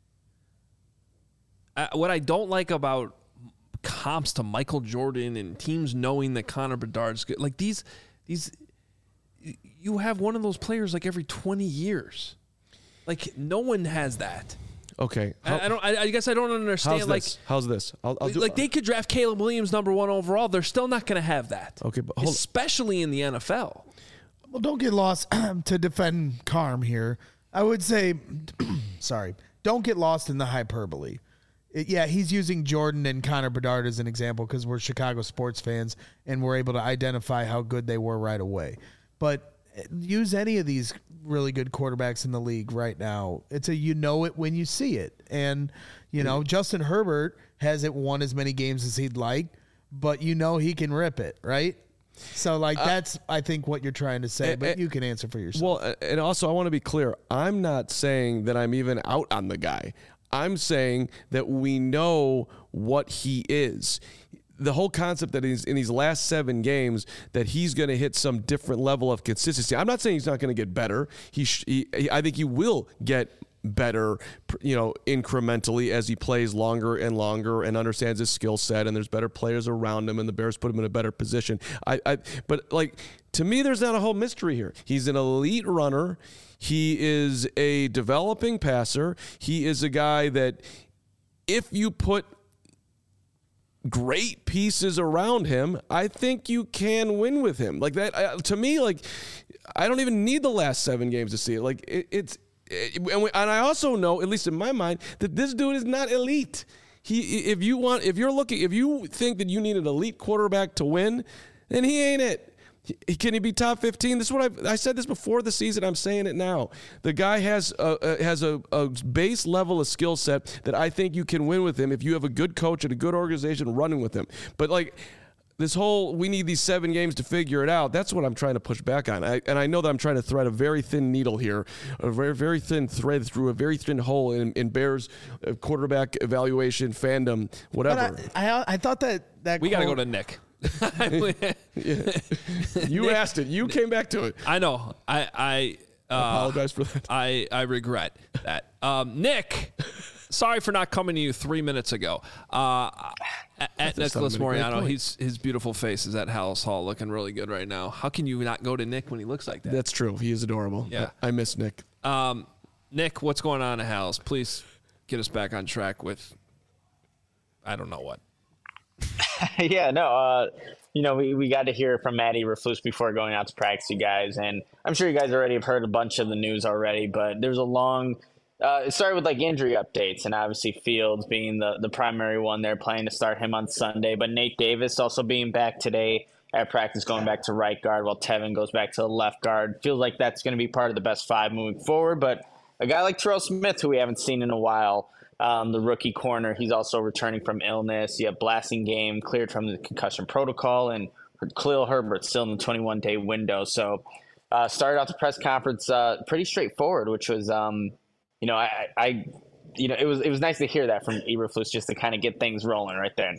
I, what I don't like about comps to Michael Jordan and teams knowing that Connor Bedard's good. Like these, these, you have one of those players like every twenty years. Like no one has that. Okay. How, I, I don't. I, I guess I don't understand. How's like this? How's this? I'll, I'll do, like they could draft Caleb Williams number one overall. They're still not going to have that. Okay, but hold especially in the N F L. Well, don't get lost to defend Carm here. I would say, sorry, don't get lost in the hyperbole. It, yeah, he's using Jordan and Connor Bedard as an example because we're Chicago sports fans and we're able to identify how good they were right away. But use any of these really good quarterbacks in the league right now. It's a you know it when you see it. And, you know, Justin Herbert hasn't won as many games as he'd like, but you know he can rip it, right? So, like, that's, uh, I think, what you're trying to say, but you can answer for yourself. Well, and also, I want to be clear. I'm not saying that I'm even out on the guy. I'm saying that we know what he is. The whole concept that he's in these last seven games that he's going to hit some different level of consistency. I'm not saying he's not going to get better. He, sh- he, I think he will get better, you know, incrementally as he plays longer and longer and understands his skill set, and there's better players around him, and the Bears put him in a better position. I, I, but like to me, there's not a whole mystery here. He's an elite runner. He is a developing passer. He is a guy that if you put great pieces around him, I think you can win with him. Like that, uh, to me, like I don't even need the last seven games to see it. Like it, it's, it, and, we, and I also know, at least in my mind, that this dude is not elite. He, if you want, if you're looking, if you think that you need an elite quarterback to win, then he ain't it. He, can he be top fifteen? This is what I've, I said this before the season. I'm saying it now. The guy has a, a, has a, a base level of skill set that I think you can win with him if you have a good coach and a good organization running with him. But like this whole, we need these seven games to figure it out. That's what I'm trying to push back on. I, and I know that I'm trying to thread a very thin needle here, a very, very thin thread through a very thin hole in, in Bears quarterback evaluation, fandom, whatever. But I, I, I thought that, that We got to go quote- to Nick. Yeah. You Nick, asked it. You came back to it. I know. I I uh, Apologize for that. I I regret that. Um, Nick, sorry for not coming to you three minutes ago. Uh, at at That's not Nicholas a great Moriano, point. he's his beautiful face is at Hallis Hall, looking really good right now. How can you not go to Nick when he looks like that? That's true. He is adorable. Yeah. I, I miss Nick. Um, Nick, what's going on at Hallis? Please get us back on track with. I don't know what. yeah, no, uh, you know, we, we got to hear from Matt Eberflus before going out to practice, you guys. And I'm sure you guys already have heard a bunch of the news already, but there's a long uh, – it started with, like, injury updates, and obviously Fields being the, the primary one there, planning to start him on Sunday. But Nate Davis also being back today at practice, going back to right guard, while Tevin goes back to the left guard. Feels like that's going to be part of the best five moving forward. But a guy like Terrell Smith, who we haven't seen in a while – Um, the rookie corner, he's also returning from illness. You have Blasting Game cleared from the concussion protocol, and Khalil Herbert still in the twenty-one day window. So uh, started off the press conference uh, pretty straightforward, which was, um, you know, I, I, you know, it was it was nice to hear that from Eberflus just to kind of get things rolling right there.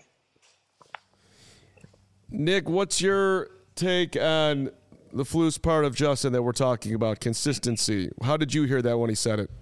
Nick, what's your take on the Flus part of Justin that we're talking about, consistency? How did you hear that when he said it?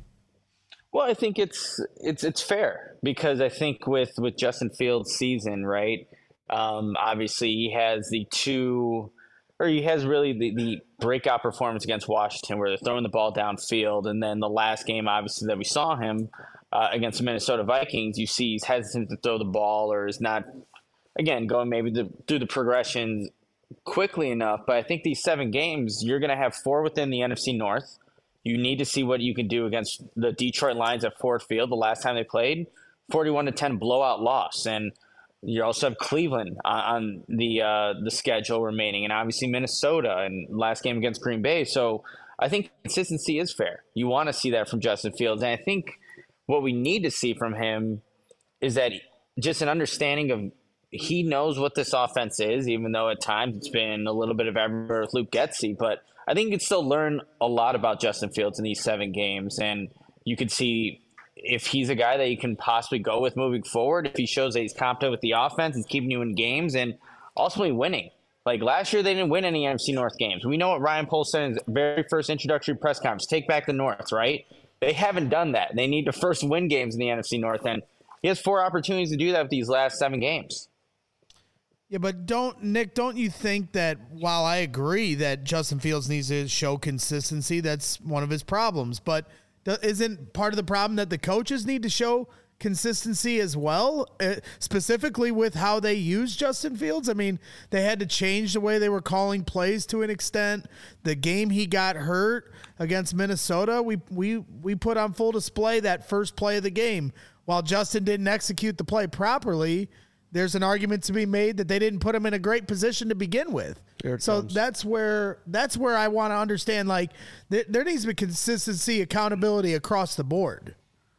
Well, I think it's it's it's fair because I think with, with Justin Fields' season, right? Um, obviously, he has the two, or he has really the, the breakout performance against Washington, where they're throwing the ball downfield, and then the last game, obviously, that we saw him uh, against the Minnesota Vikings, you see he's hesitant to throw the ball or is not, again, going maybe the, through the progressions quickly enough. But I think these seven games, you're going to have four within the N F C North. You need to see what you can do against the Detroit Lions at Ford Field. The last time they played, forty-one to ten blowout loss. And you also have Cleveland on, on the uh, the schedule remaining, and obviously Minnesota and last game against Green Bay. So I think consistency is fair. You want to see that from Justin Fields. And I think what we need to see from him is that just an understanding of he knows what this offense is, even though at times it's been a little bit of everywhere with Luke Getsy. But I think you can still learn a lot about Justin Fields in these seven games. And you can see if he's a guy that you can possibly go with moving forward, if he shows that he's competent with the offense, he's keeping you in games and ultimately winning. Like last year, they didn't win any N F C North games. We know what Ryan Poles said in his very first introductory press conference, take back the North, right? They haven't done that. They need to first win games in the N F C North. And he has four opportunities to do that with these last seven games. Yeah, but don't, Nick, don't you think that while I agree that Justin Fields needs to show consistency, that's one of his problems, but th- isn't part of the problem that the coaches need to show consistency as well, uh, specifically with how they use Justin Fields? I mean, they had to change the way they were calling plays to an extent. The game he got hurt against Minnesota, we we we put on full display that first play of the game. While Justin didn't execute the play properly, there's an argument to be made that they didn't put him in a great position to begin with. So comes. that's where that's where I want to understand, like, th- there needs to be consistency, accountability across the board.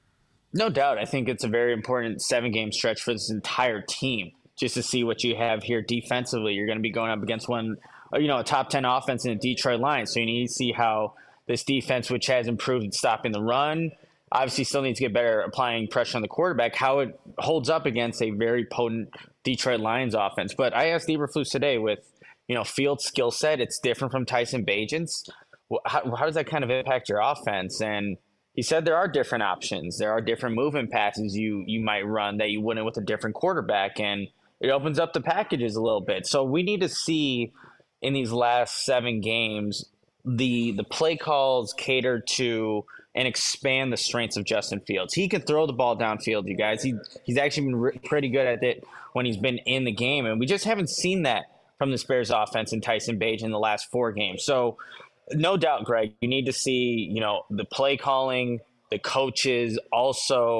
No doubt. I think it's a very important seven-game stretch for this entire team just to see what you have here defensively. You're going to be going up against one, you know, a top ten offense in the Detroit Lions. So you need to see how this defense, which has improved at stopping the run, obviously still needs to get better applying pressure on the quarterback, how it holds up against a very potent Detroit Lions offense. But I asked Eberflus today with, you know, Fields' skill set, it's different from Tyson Bagent's. How, how does that kind of impact your offense? And he said there are different options. There are different movement passes you you might run that you wouldn't with a different quarterback, and it opens up the packages a little bit. So we need to see in these last seven games the the play calls cater to and expand the strengths of Justin Fields. He can throw the ball downfield, you guys. He he's actually been re- pretty good at it when he's been in the game, and we just haven't seen that from the Bears offense and Tyson Bagent in the last four games. So no doubt, Greg, you need to see, you know, the play calling, the coaches also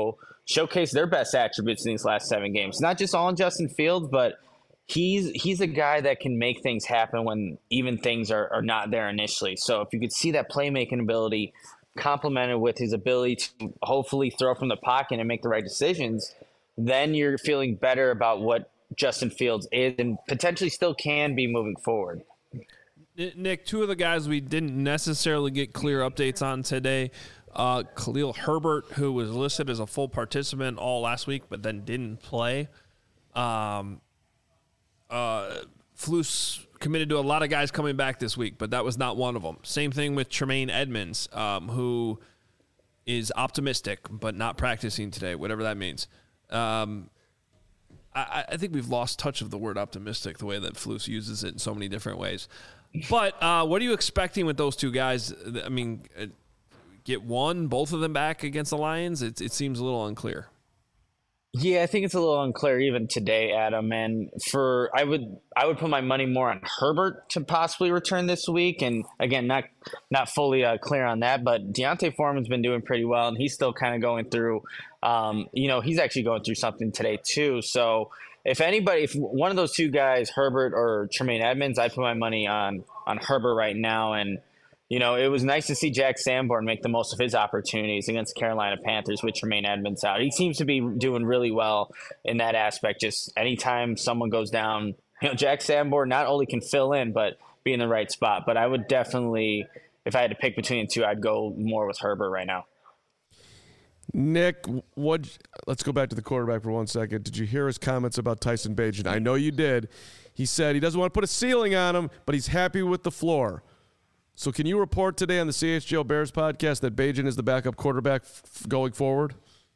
showcased their best attributes in these last seven games. Not just all in Justin Fields, but he's he's a guy that can make things happen when even things are, are not there initially. So if you could see that playmaking ability complemented with his ability to hopefully throw from the pocket and make the right decisions, then you're feeling better about what Justin Fields is and potentially still can be moving forward. Nick, two of the guys we didn't necessarily get clear updates on today, uh, Khalil Herbert, who was listed as a full participant all last week but then didn't play. Um, uh, Flus committed to a lot of guys coming back this week, but that was not one of them. Same thing with Tremaine Edmonds, um, who is optimistic but not practicing today, whatever that means. Um, I, I think we've lost touch of the word optimistic, the way that Flus uses it in so many different ways. But uh, what are you expecting with those two guys? I mean, get one, both of them back against the Lions? It, it seems a little unclear. Yeah, I think it's a little unclear even today, Adam. And for I would I would put my money more on Herbert to possibly return this week. And again, not not fully uh, clear on that, but Deontay Foreman's been doing pretty well, and he's still kind of going through. Um, you know, he's actually going through something today too. So if anybody, if one of those two guys, Herbert or Tremaine Edmonds, I put my money on on Herbert right now. And you know, it was nice to see Jack Sanborn make the most of his opportunities against Carolina Panthers with Tremaine Edmonds out. He seems to be doing really well in that aspect. Just anytime someone goes down, you know, Jack Sanborn not only can fill in, but be in the right spot. But I would definitely, if I had to pick between the two, I'd go more with Herbert right now. Nick, what? Let's go back to the quarterback for one second. Did you hear his comments about Tyson Bagent? I know you did. He said he doesn't want to put a ceiling on him, but he's happy with the floor. So can you report today on the C H G O Bears podcast that Bagent is the backup quarterback f- going forward?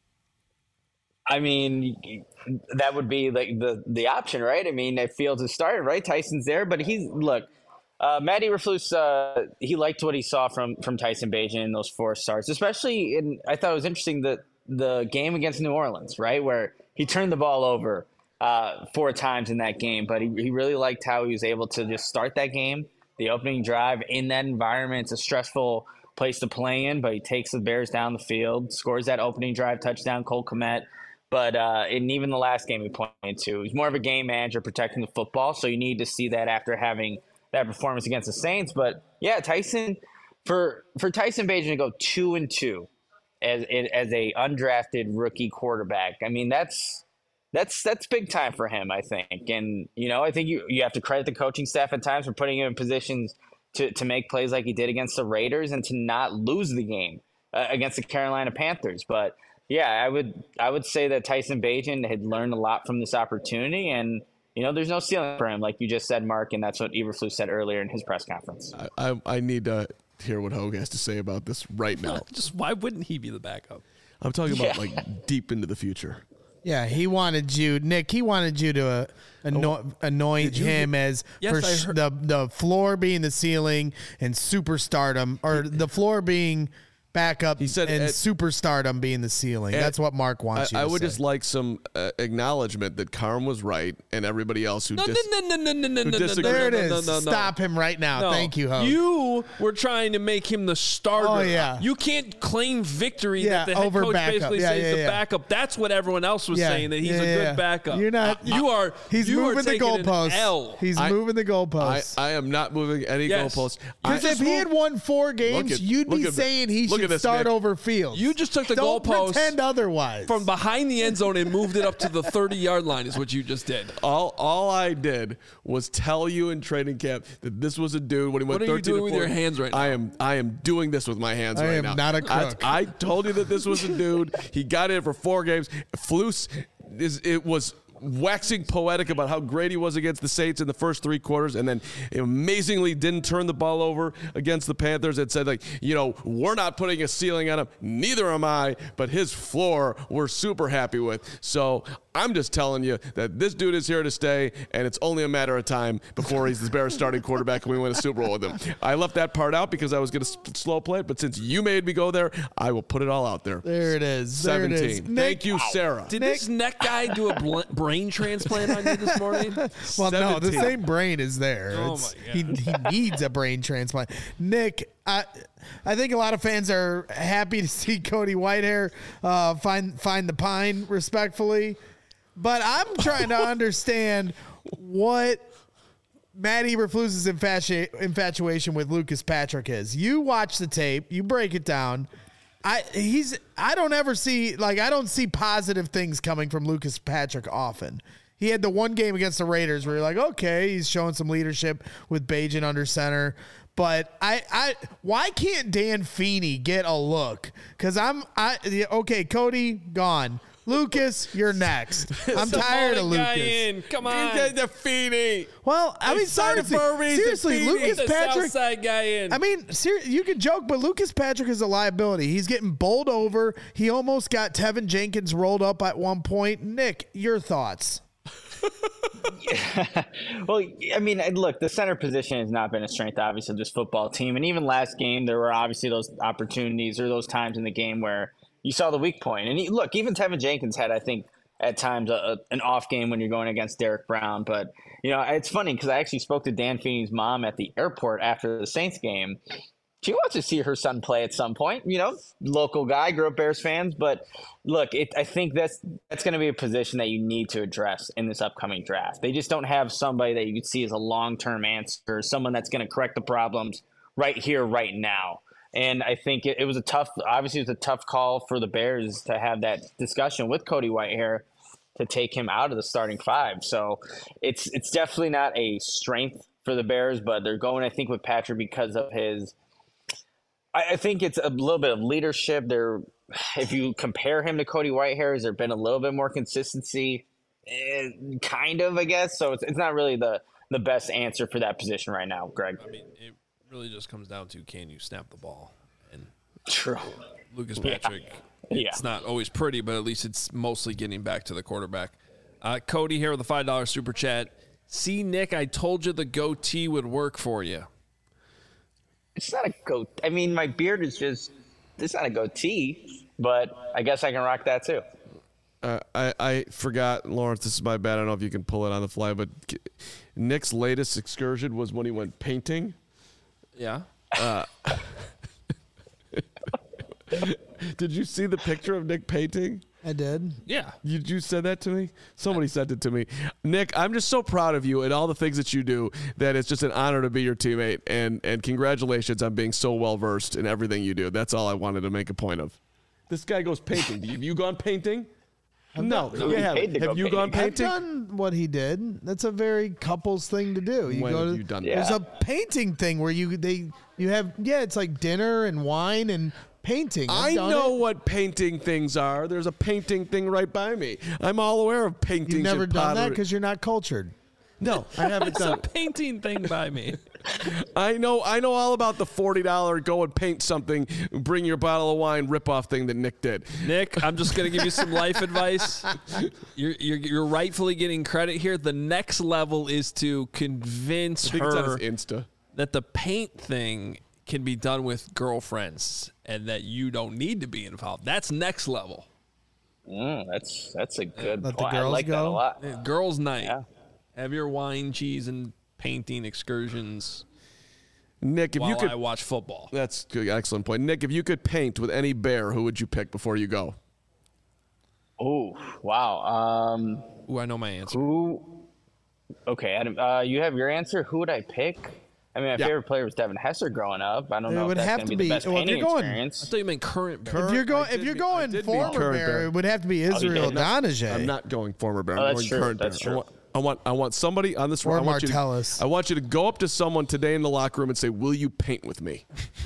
I mean, that would be like the, the option, right? I mean, if Fields has started, right? Tyson's there, but he's look. Uh, Matt Eberflus, uh, he liked what he saw from from Tyson Bagent in those four starts, especially in. I thought it was interesting that the game against New Orleans, right, where he turned the ball over uh, four times in that game, but he he really liked how he was able to just start that game. The opening drive in that environment, it's a stressful place to play in, but he takes the Bears down the field, scores that opening drive touchdown, Cole Kmet. But uh, in even the last game he pointed to, he's more of a game manager protecting the football, so you need to see that after having that performance against the Saints. But, yeah, Tyson for for Tyson Bagent to go two and two as as a undrafted rookie quarterback, I mean, that's – That's that's big time for him, I think. And, you know, I think you, you have to credit the coaching staff at times for putting him in positions to, to make plays like he did against the Raiders and to not lose the game uh, against the Carolina Panthers. But, yeah, I would I would say that Tyson Bagent had learned a lot from this opportunity. And, you know, there's no ceiling for him, like you just said, Mark, and that's what Eberflus said earlier in his press conference. I, I, I need to hear what Hogue has to say about this right now. Just why wouldn't he be the backup? I'm talking about, Yeah. like, deep into the future. Yeah, he wanted you, Nick. He wanted you to uh, ano- Oh, anoint him as Yes, for I sh- heard- the the floor being the ceiling and superstardom, or the floor being backup. He said and at- superstardom being the ceiling. at- That's what Mark wants I, you I to would say. just like some uh, acknowledgement that Carm was right and everybody else who No, dis- no, no, no, no, no, who no, no, disagree- There it no, is. no, no, no. Stop him right now. No. Thank you, Hope. You were trying to make him the starter. Oh, yeah. You can't claim victory Yeah, that the head over coach backup. basically Yeah, says yeah, the yeah. backup. That's what everyone else was Yeah, saying, that he's yeah, a good yeah. backup. You're not- Uh, you are. He's you moving are the taking an goalposts. L. He's I- moving the I, goalposts. I am not moving any Yes. goalposts. Because I- if he had won four games, at- you'd look be at- saying he look at should this, start Nick. over Fields. You just took the Don't goalpost pretend otherwise. from behind the end zone and moved it up to the thirty-yard line is what you just did. All all I did was tell you in training camp that this was a dude when he went What are you thirteen doing to with four. your hands right now? I am I am doing this with my hands I right am now. not a I- crook. I, told you that this was a dude. He got in for four games. Flus is it was waxing poetic about how great he was against the Saints in the first three quarters, and then amazingly didn't turn the ball over against the Panthers and said, like, you know, we're not putting a ceiling on him. Neither am I, but his floor we're super happy with. So I'm just telling you that this dude is here to stay, and it's only a matter of time before he's the Bears starting quarterback and we win a Super Bowl with him. I left that part out because I was going to slow play it, but since you made me go there, I will put it all out there. There it is. There it is. seventeen. Thank you, Sarah. Did this neck guy do a bl- brain transplant on you this morning? Well, no, the seventeen. same brain is there. Oh It's- my he, he needs a brain transplant. Nick, I I think a lot of fans are happy to see Cody Whitehair uh, find find the pine respectfully, but I'm trying to understand what Matt Eberflus's infatu- infatuation with Lucas Patrick is. You watch the tape, you break it down. I he's I don't ever see like I don't see positive things coming from Lucas Patrick often. He had the one game against the Raiders where you're like, okay, he's showing some leadership with Bajan under center. But I, I, why can't Dan Feeney get a look? Because I'm, I, okay, Cody gone. Lucas, you're next. I'm tired of Lucas. In. Come on, Get the Feeney. Well, I mean, seriously, seriously, Lucas the Patrick. Southside guy in. I mean, ser- you can joke, but Lucas Patrick is a liability. He's getting bowled over. He almost got Tevin Jenkins rolled up at one point. Nick, your thoughts? Yeah. Well, I mean, look, the center position has not been a strength, obviously, of this football team. And even last game, there were obviously those opportunities or those times in the game where you saw the weak point. And he, look, even Tevin Jenkins had, I think, at times a, a, an off game when you're going against Derek Brown. But, you know, it's funny because I actually spoke to Dan Feeney's mom at the airport after the Saints game. She wants to see her son play at some point, you know, local guy, grew up Bears fans. But look, it, I think that's that's going to be a position that you need to address in this upcoming draft. They just don't have somebody that you could see as a long-term answer, someone that's going to correct the problems right here, right now. And I think it, it was a tough, obviously it was a tough call for the Bears to have that discussion with Cody Whitehair to take him out of the starting five. So it's it's definitely not a strength for the Bears, but they're going, I think, with Patrick because of his – I think it's a little bit of leadership. There, if you compare him to Cody Whitehair, has there been a little bit more consistency? Eh, kind of, I guess. So it's, it's not really the, the best answer for that position right now, Greg. I mean, it really just comes down to can you snap the ball? And True. Lucas Patrick, Yeah. it's not always pretty, but at least it's mostly getting back to the quarterback. Uh, Cody here with a five dollar super chat. See, Nick, I told you the goatee would work for you. It's not a goat. I mean, my beard is just, it's not a goatee, but I guess I can rock that too. Uh, I, I forgot, Lawrence, this is my bad. I don't know if you can pull it on the fly, but Nick's latest excursion was when he went painting. Yeah. Uh, did you see the picture of Nick painting? I did. Yeah. You, you said that to me? Somebody sent it to me. Nick, I'm just so proud of you and all the things that you do that it's just an honor to be your teammate. And, and congratulations on being so well-versed in everything you do. That's all I wanted to make a point of. This guy goes painting. Have you gone painting? No. no, you he haven't. paid to Have go you gone painting. I've painting? done what he did. That's a very couples thing to do. You When go have to, you done that? There's Yeah. a painting thing where you they you have yeah, it's like dinner and wine and painting. I've I done know it. what painting things are. There's a painting thing right by me. I'm all aware of paintings. You've never and done that pottery. because you're not cultured. No, I haven't It's a done. painting thing by me. I know. I know all about the forty dollar go and paint something, bring your bottle of wine ripoff thing that Nick did. Nick, I'm just going to give you some life advice. You're, you're you're rightfully getting credit here. The next level is to convince I think it's on her his Insta. that the paint thing can be done with girlfriends and that you don't need to be involved. That's next level. Mm, that's that's a good Let the point. I girls like that a go? lot. Girls' night. Yeah. Have your wine, cheese, and painting excursions Nick, if while you could, I watch football. that's good, excellent point. Nick, if you could paint with any bear, who would you pick before you go? Oh, wow. Um, Ooh, I know my answer. who? Okay, Adam. Uh, you have your answer. Who would I pick? I mean, my Yeah. favorite player was Devin Hester growing up. I don't It know would if that's have going to to be be- the best well, if painting you're going- I experience. thought you meant current. If Bear. you're going, I if did you're mean- I going did mean former current bear, bear. it would have to be you Israel did. Donajay. I'm not going former bear. Oh, I'm that's going true. current That's bear. I true. want, I want, I want somebody on this. Or I want you to- Martellus. I want you to go up to someone today in the locker room and say, "Will you paint with me?"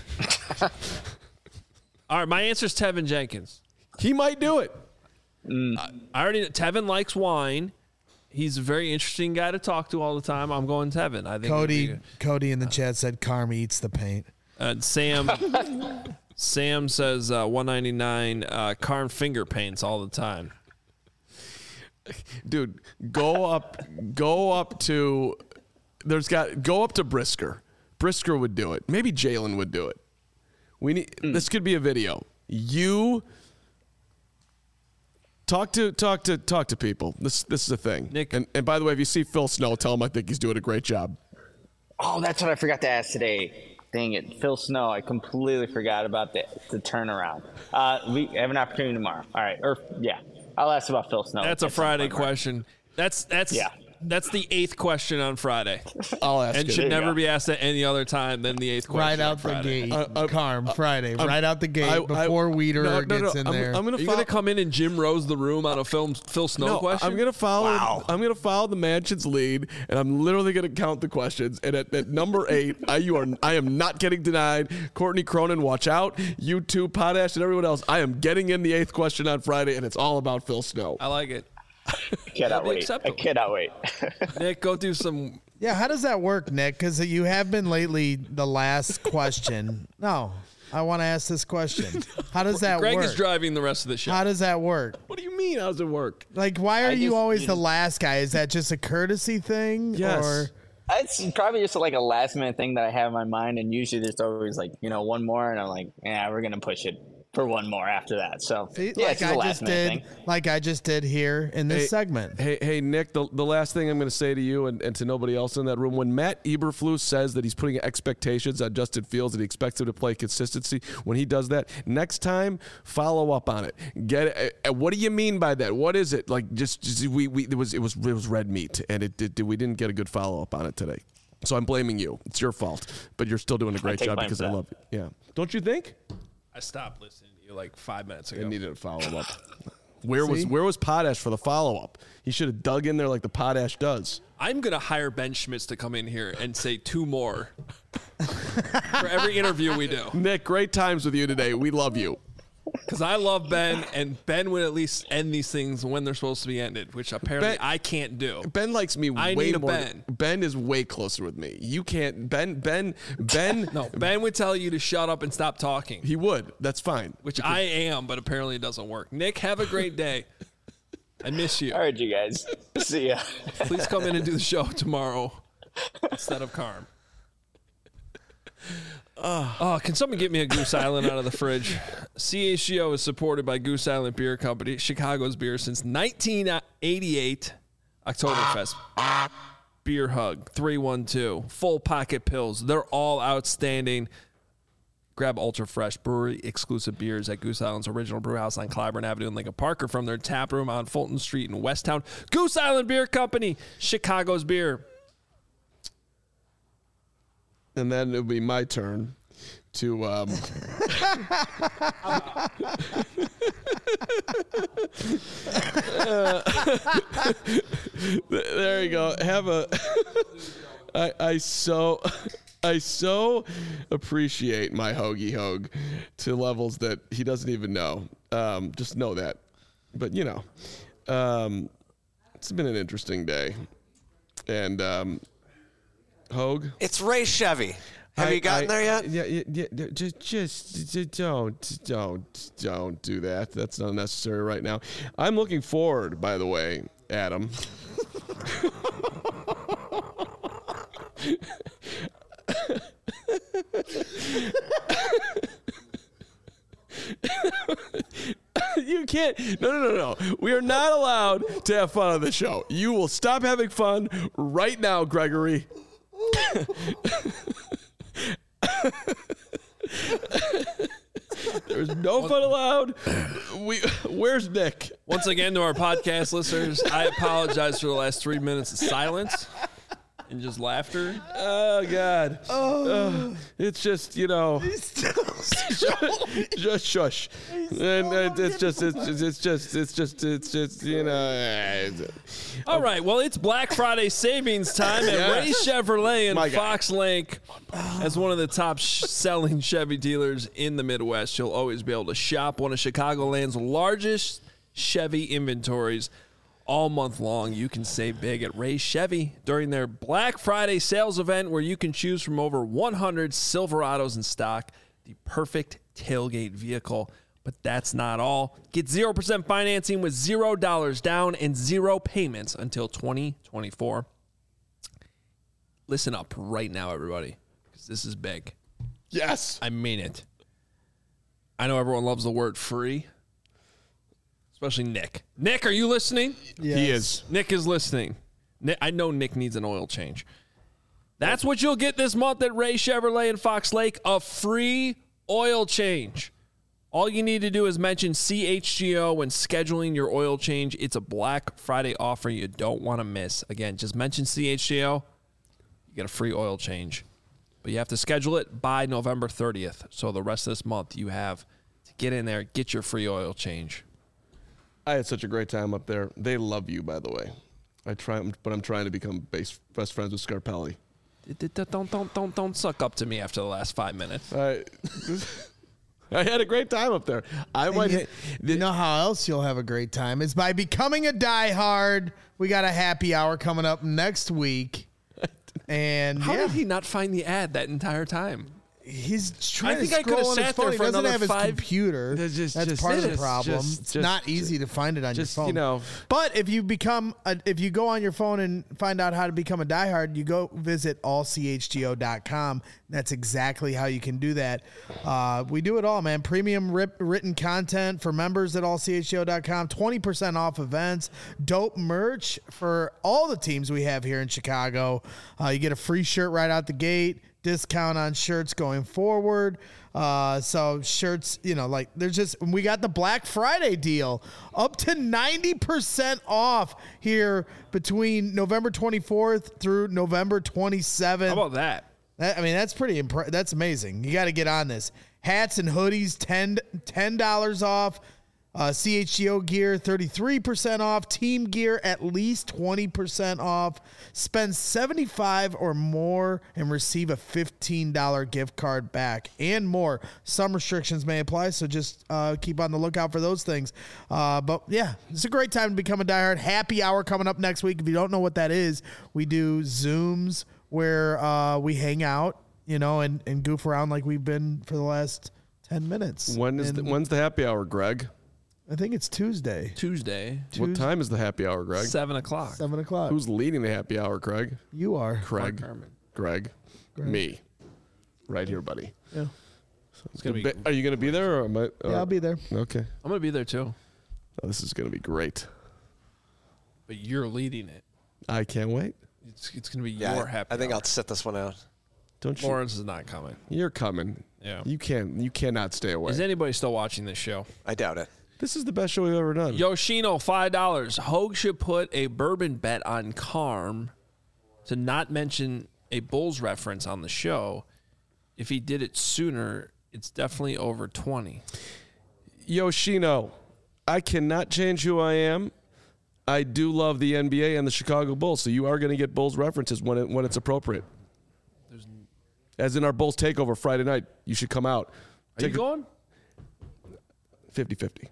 All right, my answer is Tevin Jenkins. He might do it. I already know Tevin likes wine. He's a very interesting guy to talk to all the time. I'm going Tevin. I think Cody, it'd be Cody in the chat said Carm eats the paint. good. Uh, Sam, Sam says uh, one ninety-nine. Uh, Carn finger paints all the time. Dude, go up, go up to. There's got go up to Brisker. Brisker would do it. Maybe Jalen would do it. We need. This could be a video. You talk to talk to talk to people. This this is a thing. Nick- and and by the way, if you see Phil Snow, tell him I think he's doing a great job. Oh, that's what I forgot to ask today. Dang it, Phil Snow. I completely forgot about the, the turnaround. Uh, we have an opportunity tomorrow. All right. Or, yeah. I'll ask about Phil Snow. That's a Friday question. That's that's Yeah. that's the eighth question on Friday, I'll ask and it. should you never go. be asked at any other time than the eighth question. Right on out the Friday. gate, Uh, uh, Carm, uh, Friday. um, right out the gate I- I- before Weeder no, no, no, gets in I'm, there. I'm gonna Are you follow, gonna come in and Jim Rose the room on a film Phil Snow no, question? I'm gonna follow. Wow. I'm gonna follow the mansion's lead, and I'm literally gonna count the questions. And at, at number eight, I you are I am not getting denied. Courtney Cronin, watch out. You too, Potash, and everyone else. I am getting in the eighth question on Friday, and it's all about Phil Snow. I like it. I cannot be wait. I acceptable. cannot wait. Nick, go do some. Yeah, how does that work, Nick? Because you have been lately the last question. No, I want to ask this question. How does that Greg work? is driving the rest of the show. How does that work? What do you mean? How does it work? Like, why are I you just- always you the just- last guy? Is that just a courtesy thing? Yes. Or It's probably just like a last minute thing that I have in my mind, and usually there's always like you know one more, and I'm like, yeah, we're gonna push it for one more after that. So See, yeah, like it's just a I last just minute did, thing. like I just did here in this Hey, segment. Hey, hey, Nick, the, the last thing I'm going to say to you and, and to nobody else in that room, when Matt Eberflus says that he's putting expectations on Justin Fields and he expects him to play consistency, when he does that, next time, follow up on it. Get it. Uh, what do you mean by that? What is it? Like, just, just we, we, it was, it was, it was red meat, and it, it, we didn't get a good follow up on it today. So I'm blaming you. It's your fault, but you're still doing a great take job blame because for I that. love you. Yeah. Don't you think? I stopped listening to you like five minutes I ago. needed a follow up. Where was See? where was Potash for the follow up? He should have dug in there like the Potash does. I'm gonna hire Ben Schmitz to come in here and say two more for every interview we do, Nick, great times with you today. We love you. because I love Ben, and Ben would at least end these things when they're supposed to be ended, which apparently Ben- I can't do. Ben likes me I way need a more. Ben. Ben is way closer with me. You can't. Ben. Ben. Ben. No, Ben would tell you to shut up and stop talking, He would. That's fine. which I am, but apparently it doesn't work. Nick, have a great day. I miss you. All right, you guys. See ya. Please come in and do the show tomorrow instead of Carm. Oh, can someone get me a Goose Island out of the fridge? C H G O is supported by Goose Island Beer Company, Chicago's beer since nineteen eighty-eight. Oktoberfest. Beer Hug, three one two. Full Pocket Pills. They're all outstanding. Grab Ultra Fresh brewery exclusive beers at Goose Island's original brew house on Clyburn Avenue in Lincoln Park, or from their tap room on Fulton Street in Westtown. Goose Island Beer Company, Chicago's beer. And then it'll be my turn to. Um, there you go. Have a. I I so. I so appreciate my hoagie hogue to levels that he doesn't even know. Um, just know that. But, you know, um, it's been an interesting day. And um, Hogue? It's Ray Chevy. Have I- you gotten I- there yet? Yeah, yeah, yeah, yeah, just, just, just don't, don't, don't do that. That's not necessary right now. I'm looking forward, by the way, Adam. You can't. No, no, no, no. We are not allowed to have fun on the show. You will stop having fun right now, Gregory. There's no fun allowed. We, where's Nick? Once again, to our podcast listeners, I apologize for the last three minutes of silence and just laughter. Oh God. Oh. It's just, you know. Just shush. And uh, it's just, it's just, it's just, it's just, it's just, you know. All right, well, it's Black Friday savings time at Yes. Ray Chevrolet in My guy. Fox Lake. As one of the top sh- selling Chevy dealers in the Midwest, you'll always be able to shop one of Chicagoland's largest Chevy inventories. All month long, you can save big at Ray Chevy during their Black Friday sales event, where you can choose from over one hundred Silverados in stock, the perfect tailgate vehicle. But that's not all. Get zero percent financing with zero dollars down and zero payments until twenty twenty-four. Listen up right now, everybody, because this is big. Yes. I mean it. I know everyone loves the word free, especially Nick. Nick, are you listening? He is. Nick is listening. Nick, I know Nick needs an oil change. That's what you'll get this month at Ray Chevrolet in Fox Lake, a free oil change. All you need to do is mention C H G O when scheduling your oil change. It's a Black Friday offer you don't want to miss. Again, just mention C H G O. You get a free oil change. But you have to schedule it by November thirtieth. So the rest of this month you have to get in there, get your free oil change. I had such a great time up there. They love you, by the way. I try, but I'm trying to become base, best friends with Scarpelli. Don't don't don't don't suck up to me after the last five minutes. I, I had a great time up there. I might. You, you know how else you'll have a great time is by becoming a diehard. We got a happy hour coming up next week, and How yeah, did he not find the ad that entire time? he's trying I think to I scroll could've on his sat phone. there He for doesn't another have his five- computer. Just- just- That's just- part of the just- problem. just- it's just- not easy to find it on just, your phone. you know. But if you become, a, if you go on your phone and find out how to become a diehard, you go visit all c h g o dot com. That's exactly how you can do that. Uh, we do it all, man. Premium rip, written content for members at all c h g o dot com. twenty percent off events. Dope merch for all the teams we have here in Chicago. Uh, you get a free shirt right out the gate. Discount on shirts going forward. Uh, so shirts, you know, like there's just, we got the Black Friday deal up to ninety percent off here between November twenty-fourth through November twenty-seventh. How about that? That, I mean, that's pretty, impre- that's amazing. You got to get on this. Hats and hoodies, ten dollars off. Uh, C H G O gear, thirty-three percent off. Team gear, at least twenty percent off. Spend seventy-five dollars or more and receive a fifteen dollars gift card back and more. Some restrictions may apply, so just uh, keep on the lookout for those things. Uh, but, yeah, it's a great time to become a diehard. Happy hour coming up next week. If you don't know what that is, we do Zooms where uh, we hang out, you know, and, and goof around like we've been for the last ten minutes. When is the, And when's the happy hour, Greg? I think it's Tuesday, Tuesday, What time is the happy hour, Greg? seven o'clock. seven o'clock. Who's leading the happy hour, Craig? You are. Craig. Carmen. Greg. Me. Right here, buddy. Yeah. It's gonna be. Be- Are you going to be there? Or am I, Yeah, I'll be there. Okay. I'm gonna be there too, Oh, this is going to be great. but you're leading it. I can't wait. It's it's gonna be Yeah, your I- happy. I think hour. I'll sit this one out. Don't you? Lawrence is not coming. You're coming. Yeah. You can't. You cannot stay away. Is anybody still watching this show? I doubt it. This is the best show we've ever done. Yoshino, five dollars. Hogue should put a bourbon bet on Carm to not mention a Bulls reference on the show. If he did it sooner, it's definitely over twenty. Yoshino, I cannot change who I am. I do love the N B A and the Chicago Bulls, so you are going to get Bulls references when it, when it's appropriate. As in our Bulls takeover Friday night, you should come out. Are you going? fifty-fifty.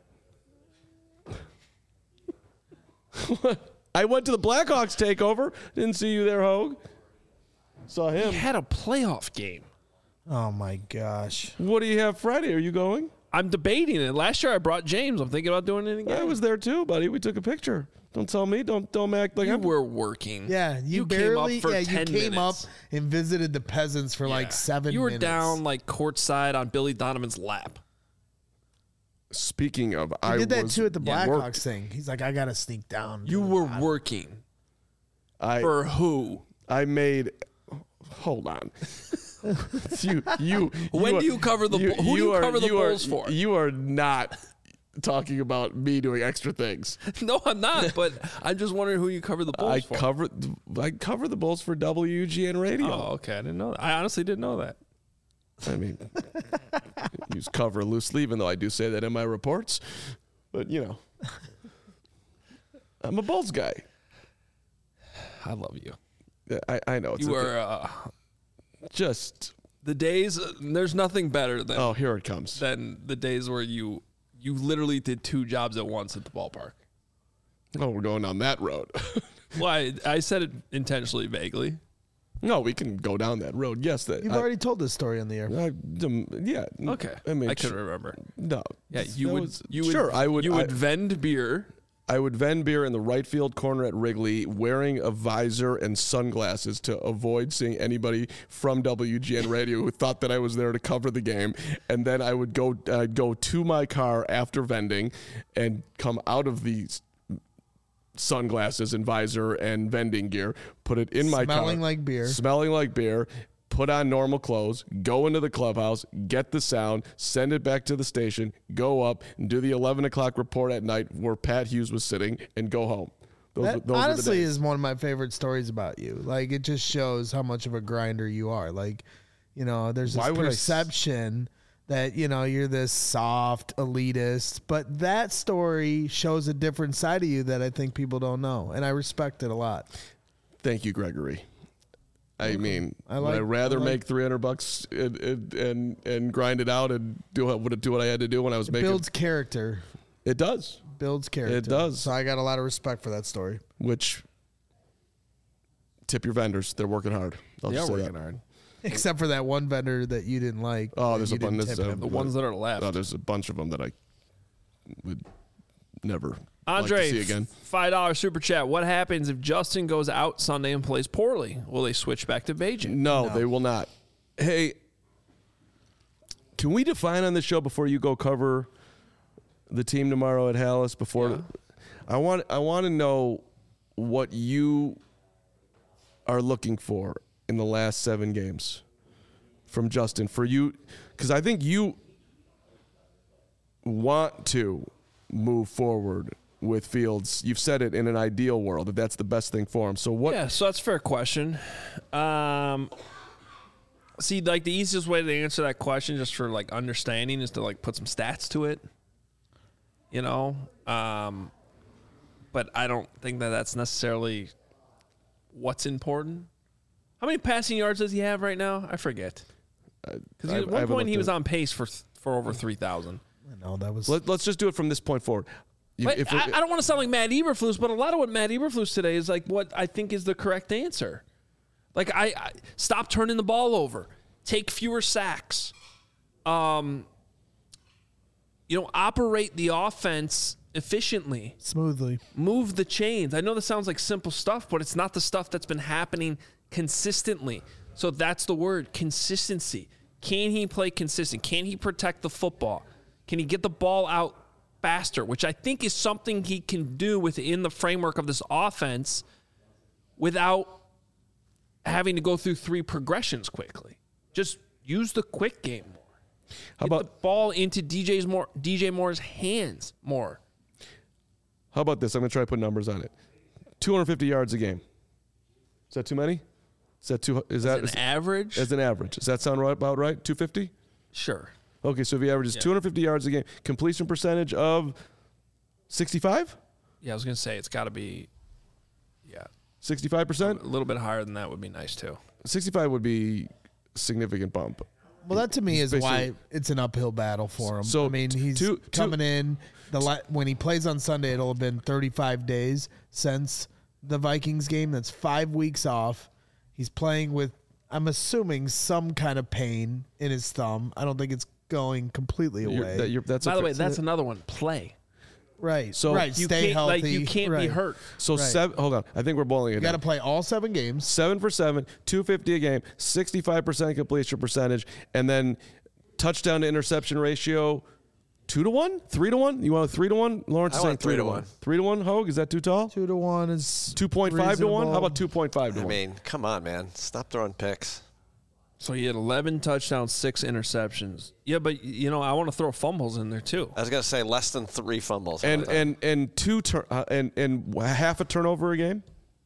I went to the Blackhawks takeover. Didn't see you there, Hogue. Saw He him. had a playoff game. Oh, my gosh. What do you have Friday? Are you going? I'm debating it. Last year I brought James. I'm thinking about doing it again. I was there too, buddy. We took a picture. Don't tell me. Don't don't act like You I'm. were working. Yeah, you, You barely. came up for yeah, you ten came minutes. up and visited the peasants for like Yeah. seven. You were minutes. down like courtside on Billy Donovan's lap. Speaking of, He I did that was too at the Blackhawks worked. thing. He's like, I gotta sneak down. You were working. I For who? I made. Hold on. you you. When you do you cover the Bull- who do you are- cover the you are- Bulls for? You are not talking about me doing extra things. No, I'm not. But I'm just wondering who you cover the Bulls I for. cover I cover the Bulls for W G N Radio. Oh, okay. I didn't know that. I honestly didn't know that. I mean, use cover loosely, even though I do say that in my reports. But you know, I'm a Bulls guy. I love you. I, I know it's You a- are uh, just. the days. There's nothing better than Oh, here it comes. than the days where you you literally did two jobs at once at the ballpark. Oh, we're going down that road. Well, I, I said it intentionally, vaguely. No, we can go down that road. Yes, that. You've I, already told this story on the air. I, um, yeah. Okay, I mean, I couldn't sh- remember. No. Yeah, you that would. was- you would. sure, I would. You I, would vend beer. I would vend beer in the right field corner at Wrigley, wearing a visor and sunglasses to avoid seeing anybody from W G N Radio who thought that I was there to cover the game. And then I would go uh, go to my car after vending, and come out of the sunglasses and visor and vending gear, put it in my car. Smelling like beer. Smelling like beer. Put on normal clothes, go into the clubhouse, get the sound, send it back to the station, go up and do the eleven o'clock report at night where Pat Hughes was sitting, and go home. Those, That those honestly are the days. is one of my favorite stories about you. Like, it just shows how much of a grinder you are. Like, you know, there's this Why would I s- perception that, you know, you're this soft elitist, but that story shows a different side of you that I think people don't know, and I respect it a lot. Thank you, Gregory. I mean, I would like- I rather I like- make three hundred bucks and, and and and grind it out and do what would do what I had to do when I was It making builds character. it does, Builds character. It does. So I got a lot of respect for that story. which tip your vendors. They're working hard. I'll They are just say working that. hard. Except for that one vendor that you didn't like. Oh, that there's you a bunch. didn't There's tip a- him. The ones that are left. Oh, there's a bunch of them that I would never Andre, like to see again. five dollar super chat. What happens if Justin goes out Sunday and plays poorly? Will they switch back to Beijing? No, they will not. Hey, can we define on the show before you go cover the team tomorrow at Hallis? Before Yeah. I want, I want to know what you are looking for in the last seven games from Justin for you, because I think you want to move forward with Fields. You've said it in an ideal world that that's the best thing for him. So what? Yeah, so that's a fair question. Um, see, like the easiest way to answer that question, just for like understanding, is to like put some stats to it. You know, um, but I don't think that that's necessarily what's important. How many passing yards does he have right now? I forget. Because I- at I one haven't point he looked was at it. on pace for th- for over three thousand. No, that was. Let, let's just do it from this point forward. You- But if I, we- I don't want to sound like Matt Eberflus, but a lot of what Matt Eberflus today is like what I think is the correct answer. Like I, I stop turning the ball over, take fewer sacks, um, you know, operate the offense efficiently, smoothly. move the chains. I know this sounds like simple stuff, but it's not the stuff that's been happening consistently. So that's the word, consistency. Can he play consistent? Can he protect the football? Can he get the ball out faster, which I think is something he can do within the framework of this offense without having to go through three progressions quickly. Just use the quick game more. How Get about the ball into D J's more D J Moore's hands more. how about this? I'm going to try to put numbers on it. two hundred fifty yards a game. Is that too many? Is that too? Is that An is, average? as an average? Does that sound right, about right? two fifty? Sure. Okay, so if he averages two hundred fifty yards a game, completion percentage of sixty-five? Yeah, I was going to say it's got to be, yeah, sixty-five a percent? little bit higher than that would be nice too. sixty-five would be a significant bump. Well, that to me He's is why basically- it's an uphill battle for him. So, I mean, he's two- two- coming in. The la- when he plays on Sunday, it'll have been thirty-five days since the Vikings game. That's five weeks off. He's playing with, I'm assuming, some kind of pain in his thumb. I don't think it's going completely You're- away. that- you're- that's By a the fair- way, that's another one. Play. right. So- right. You Stay can't healthy. like you can't right. be hurt. So Right. seven. Hold on, I think we're boiling it You got to down. play all seven games. Seven for seven, two fifty a game, sixty-five percent completion percentage, and then touchdown to interception ratio, two to one, three to one. You want a three to one? Lawrence I is saying want three to one. Three to one. Hogue, is that too tall? Two to one is Two point five to one. How reasonable. about two point five to I one? mean, come on, man. Stop throwing picks. So he had eleven touchdowns, six interceptions. Yeah, but you know I want to throw fumbles in there too. I was going to say less than three fumbles. How and about that? and and two tur- uh, and and half a turnover a game.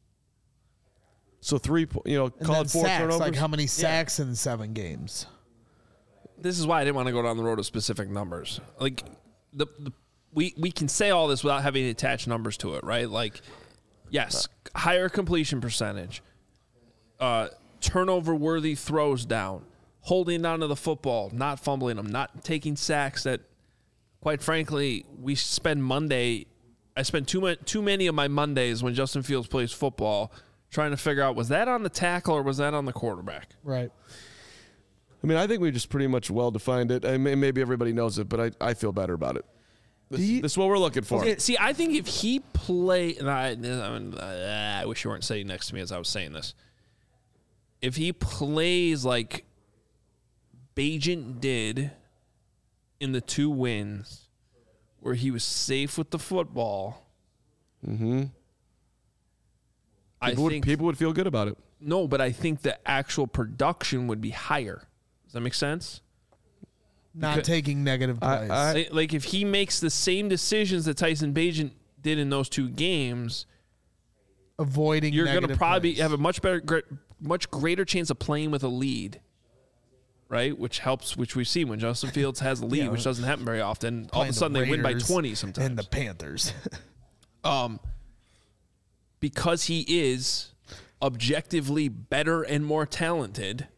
So three, po- you know, And call then it four sacks, turnovers. like how many sacks in seven games? This is why I didn't want to go down the road of specific numbers. Like the, the we we can say all this without having to attach numbers to it, right? Like yes, higher completion percentage, uh, turnover worthy throws down, holding on to the football, not fumbling them, not taking sacks that, quite frankly, we spend Monday. I spend too much too many of my Mondays when Justin Fields plays football trying to figure out was that on the tackle or was that on the quarterback. Right. I mean, I think we just pretty much well defined it. I mean, maybe everybody knows it, but I, I feel better about it. This, you- this is what we're looking for. Okay, see, I think if he play, and I, I, mean, uh, I wish you weren't sitting next to me as I was saying this. If he plays like Bagent did in the two wins, where he was safe with the football, Mm-hmm. I People would, think people would feel good about it. no, but I think the actual production would be higher. Does that make sense? Not Because- taking negative I- plays. I- Like- Like if he makes the same decisions that Tyson Bagent did in those two games, avoiding you're going to negative probably plays. have a much better, gre- much greater chance of playing with a lead, right? Which helps, which we see when Justin Fields has a lead, Yeah. which doesn't happen very often. All of Playing a the sudden, they win by Raiders twenty sometimes. And the Panthers. um, because he is objectively better and more talented,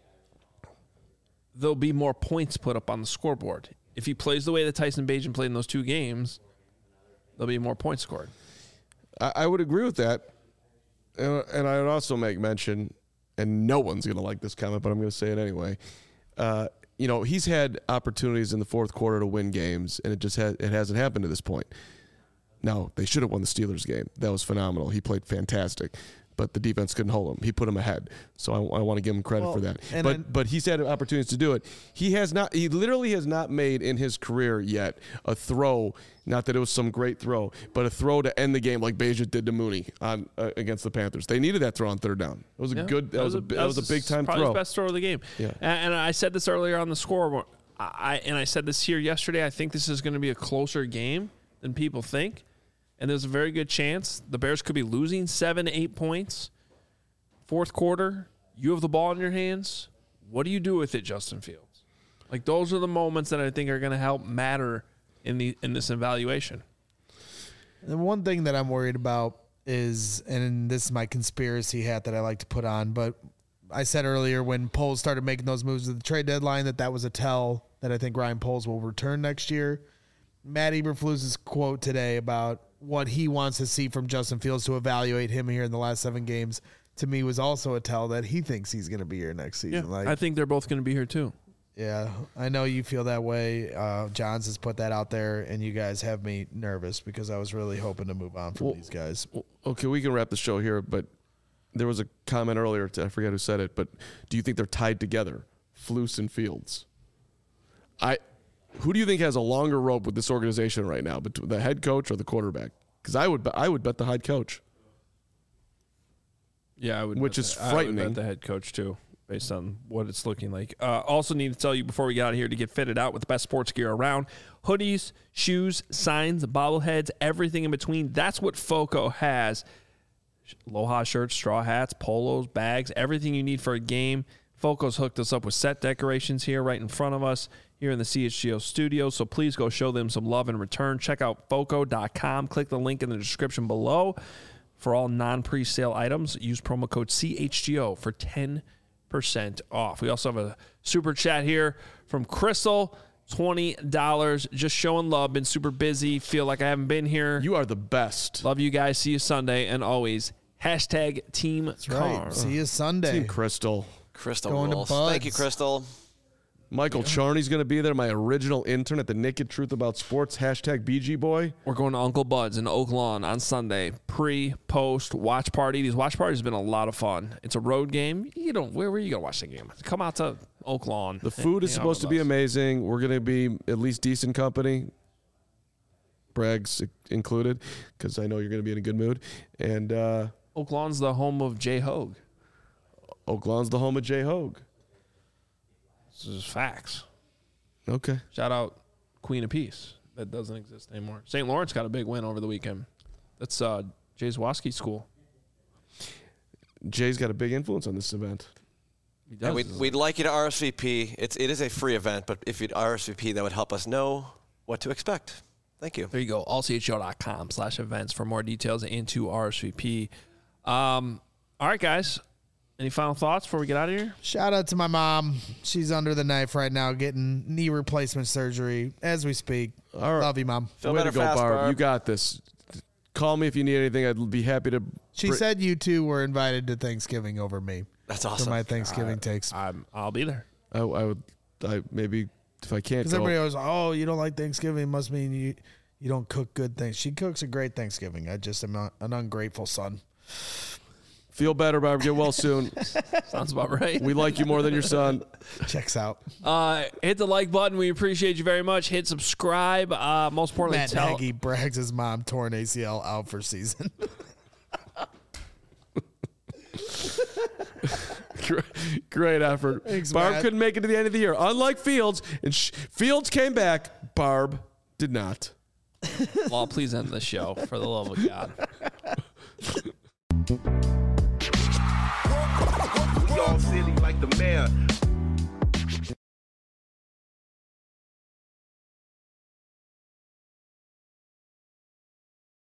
there'll be more points put up on the scoreboard. If he plays the way that Tyson Bagent played in those two games, there'll be more points scored. I, I would agree with that. And, and I would also make mention, and no one's going to like this comment, but I'm going to say it anyway. Uh, you know, he's had opportunities in the fourth quarter to win games, and it just ha- it hasn't happened to this point. Now, they should have won the Steelers game. That was phenomenal. He played fantastic. But the defense couldn't hold him. He put him ahead. So I, I want to give him credit Well, for that. and But then- but he's had opportunities to do it. He has not. He literally has not made in his career yet a throw. Not that it was some great throw, but a throw to end the game like Bagent did to Mooney on uh, against the Panthers. They needed that throw on third down. It was a Yeah, good. That, was a that was a big time probably throw. his best throw of the game. Yeah. And, and I said this earlier on the score. I and I said this here yesterday. I think this is going to be a closer game than people think, and there's a very good chance the Bears could be losing seven, eight points. Fourth quarter, you have the ball in your hands. What do you do with it, Justin Fields? Like those are the moments that I think are going to help matter in the in this evaluation. The one thing that I'm worried about is, and this is my conspiracy hat that I like to put on, but I said earlier when Poles started making those moves at the trade deadline that that was a tell that I think Ryan Poles will return next year. Matt Eberflus's quote today about what he wants to see from Justin Fields to evaluate him here in the last seven games, to me, was also a tell that he thinks he's going to be here next season. Yeah, like, I think they're both going to be here too. Yeah, I know you feel that way. Uh, Johns has put that out there, and you guys have me nervous because I was really hoping to move on from Well, these guys. Okay, we can wrap the show here, but there was a comment earlier. To, I forget who said it, but do you think they're tied together, Flus and Fields? I, who do you think has a longer rope with this organization right now, between the head coach or the quarterback? Because I would, I would bet the head coach. Yeah, I would. Which bet is the- I would frightening. bet the head coach too, based on what it's looking like. Uh, also, need to tell you before we get out of here to get fitted out with the best sports gear around: hoodies, shoes, signs, bobbleheads, everything in between. That's what Foco has. Aloha shirts, straw hats, polos, bags, everything you need for a game. Foco's hooked us up with set decorations here right in front of us here in the C H G O studio. So please go show them some love in return. Check out foco dot com. Click the link in the description below. For all non-presale items, use promo code C H G O for ten percent off. We also have a super chat here from Crystal, twenty dollars. Just showing love. Been super busy. Feel like I haven't been here. You are the best. Love you guys. See you Sunday. And always, hashtag Team That's Car. right. See you Sunday. Team Crystal. Crystal Going to rules. Buds. Thank you, Crystal. Michael Charney's going to be there, my original intern at the Naked Truth About Sports, hashtag B G Boy. We're going to Uncle Bud's in Oak Lawn on Sunday. Pre, post, watch party. These watch parties have been a lot of fun. It's a road game. You don't. Where, where are you going to watch the game? Come out to Oak Lawn. The food is Hang out supposed to with be us. amazing. We're going to be at least decent company. Bragg's included, because I know you're going to be in a good mood. And uh, Oak Lawn's the home of Jay Hogue. Oak Lawn's the home of Jay Hogue. This is facts. Okay. Shout out Queen of Peace. That doesn't exist anymore. Saint Lawrence got a big win over the weekend. That's uh, Jay Zwoski school. Jay's got a big influence on this event. He does. And we'd, we'd like you to R S V P. It's, it is a free event, but if you'd R S V P, that would help us know what to expect. Thank you. There you go. all c h o dot com slash events for more details and to R S V P. Um, all right, guys. Any final thoughts before we get out of here? Shout out to my mom. She's under the knife right now getting knee replacement surgery as we speak. All right. Love you, Mom. Feel Way better to go, fast, Barb. Barb. You got this. Call me if you need anything. I'd be happy to. She br- said you two were invited to Thanksgiving over me That's for awesome. my Thanksgiving takes. I'm, I'll be there. I, I would. I maybe if I can't Because go. everybody always, oh, you don't like Thanksgiving, must mean you you don't cook good things. She cooks a great Thanksgiving. I just am not an ungrateful son. Feel better, Barb. Get well soon. Sounds about right. We like you more than your son. Checks out. Uh, hit the like button. We appreciate you very much. Hit subscribe. Uh, most importantly, Matt tell Nagy brags his mom torn A C L out for season. great, great effort. Thanks, Barb Matt. couldn't make it to the end of the year. Unlike Fields, and sh- Fields came back. Barb did not. Well, please end the show for the love of God. We all silly like the mayor.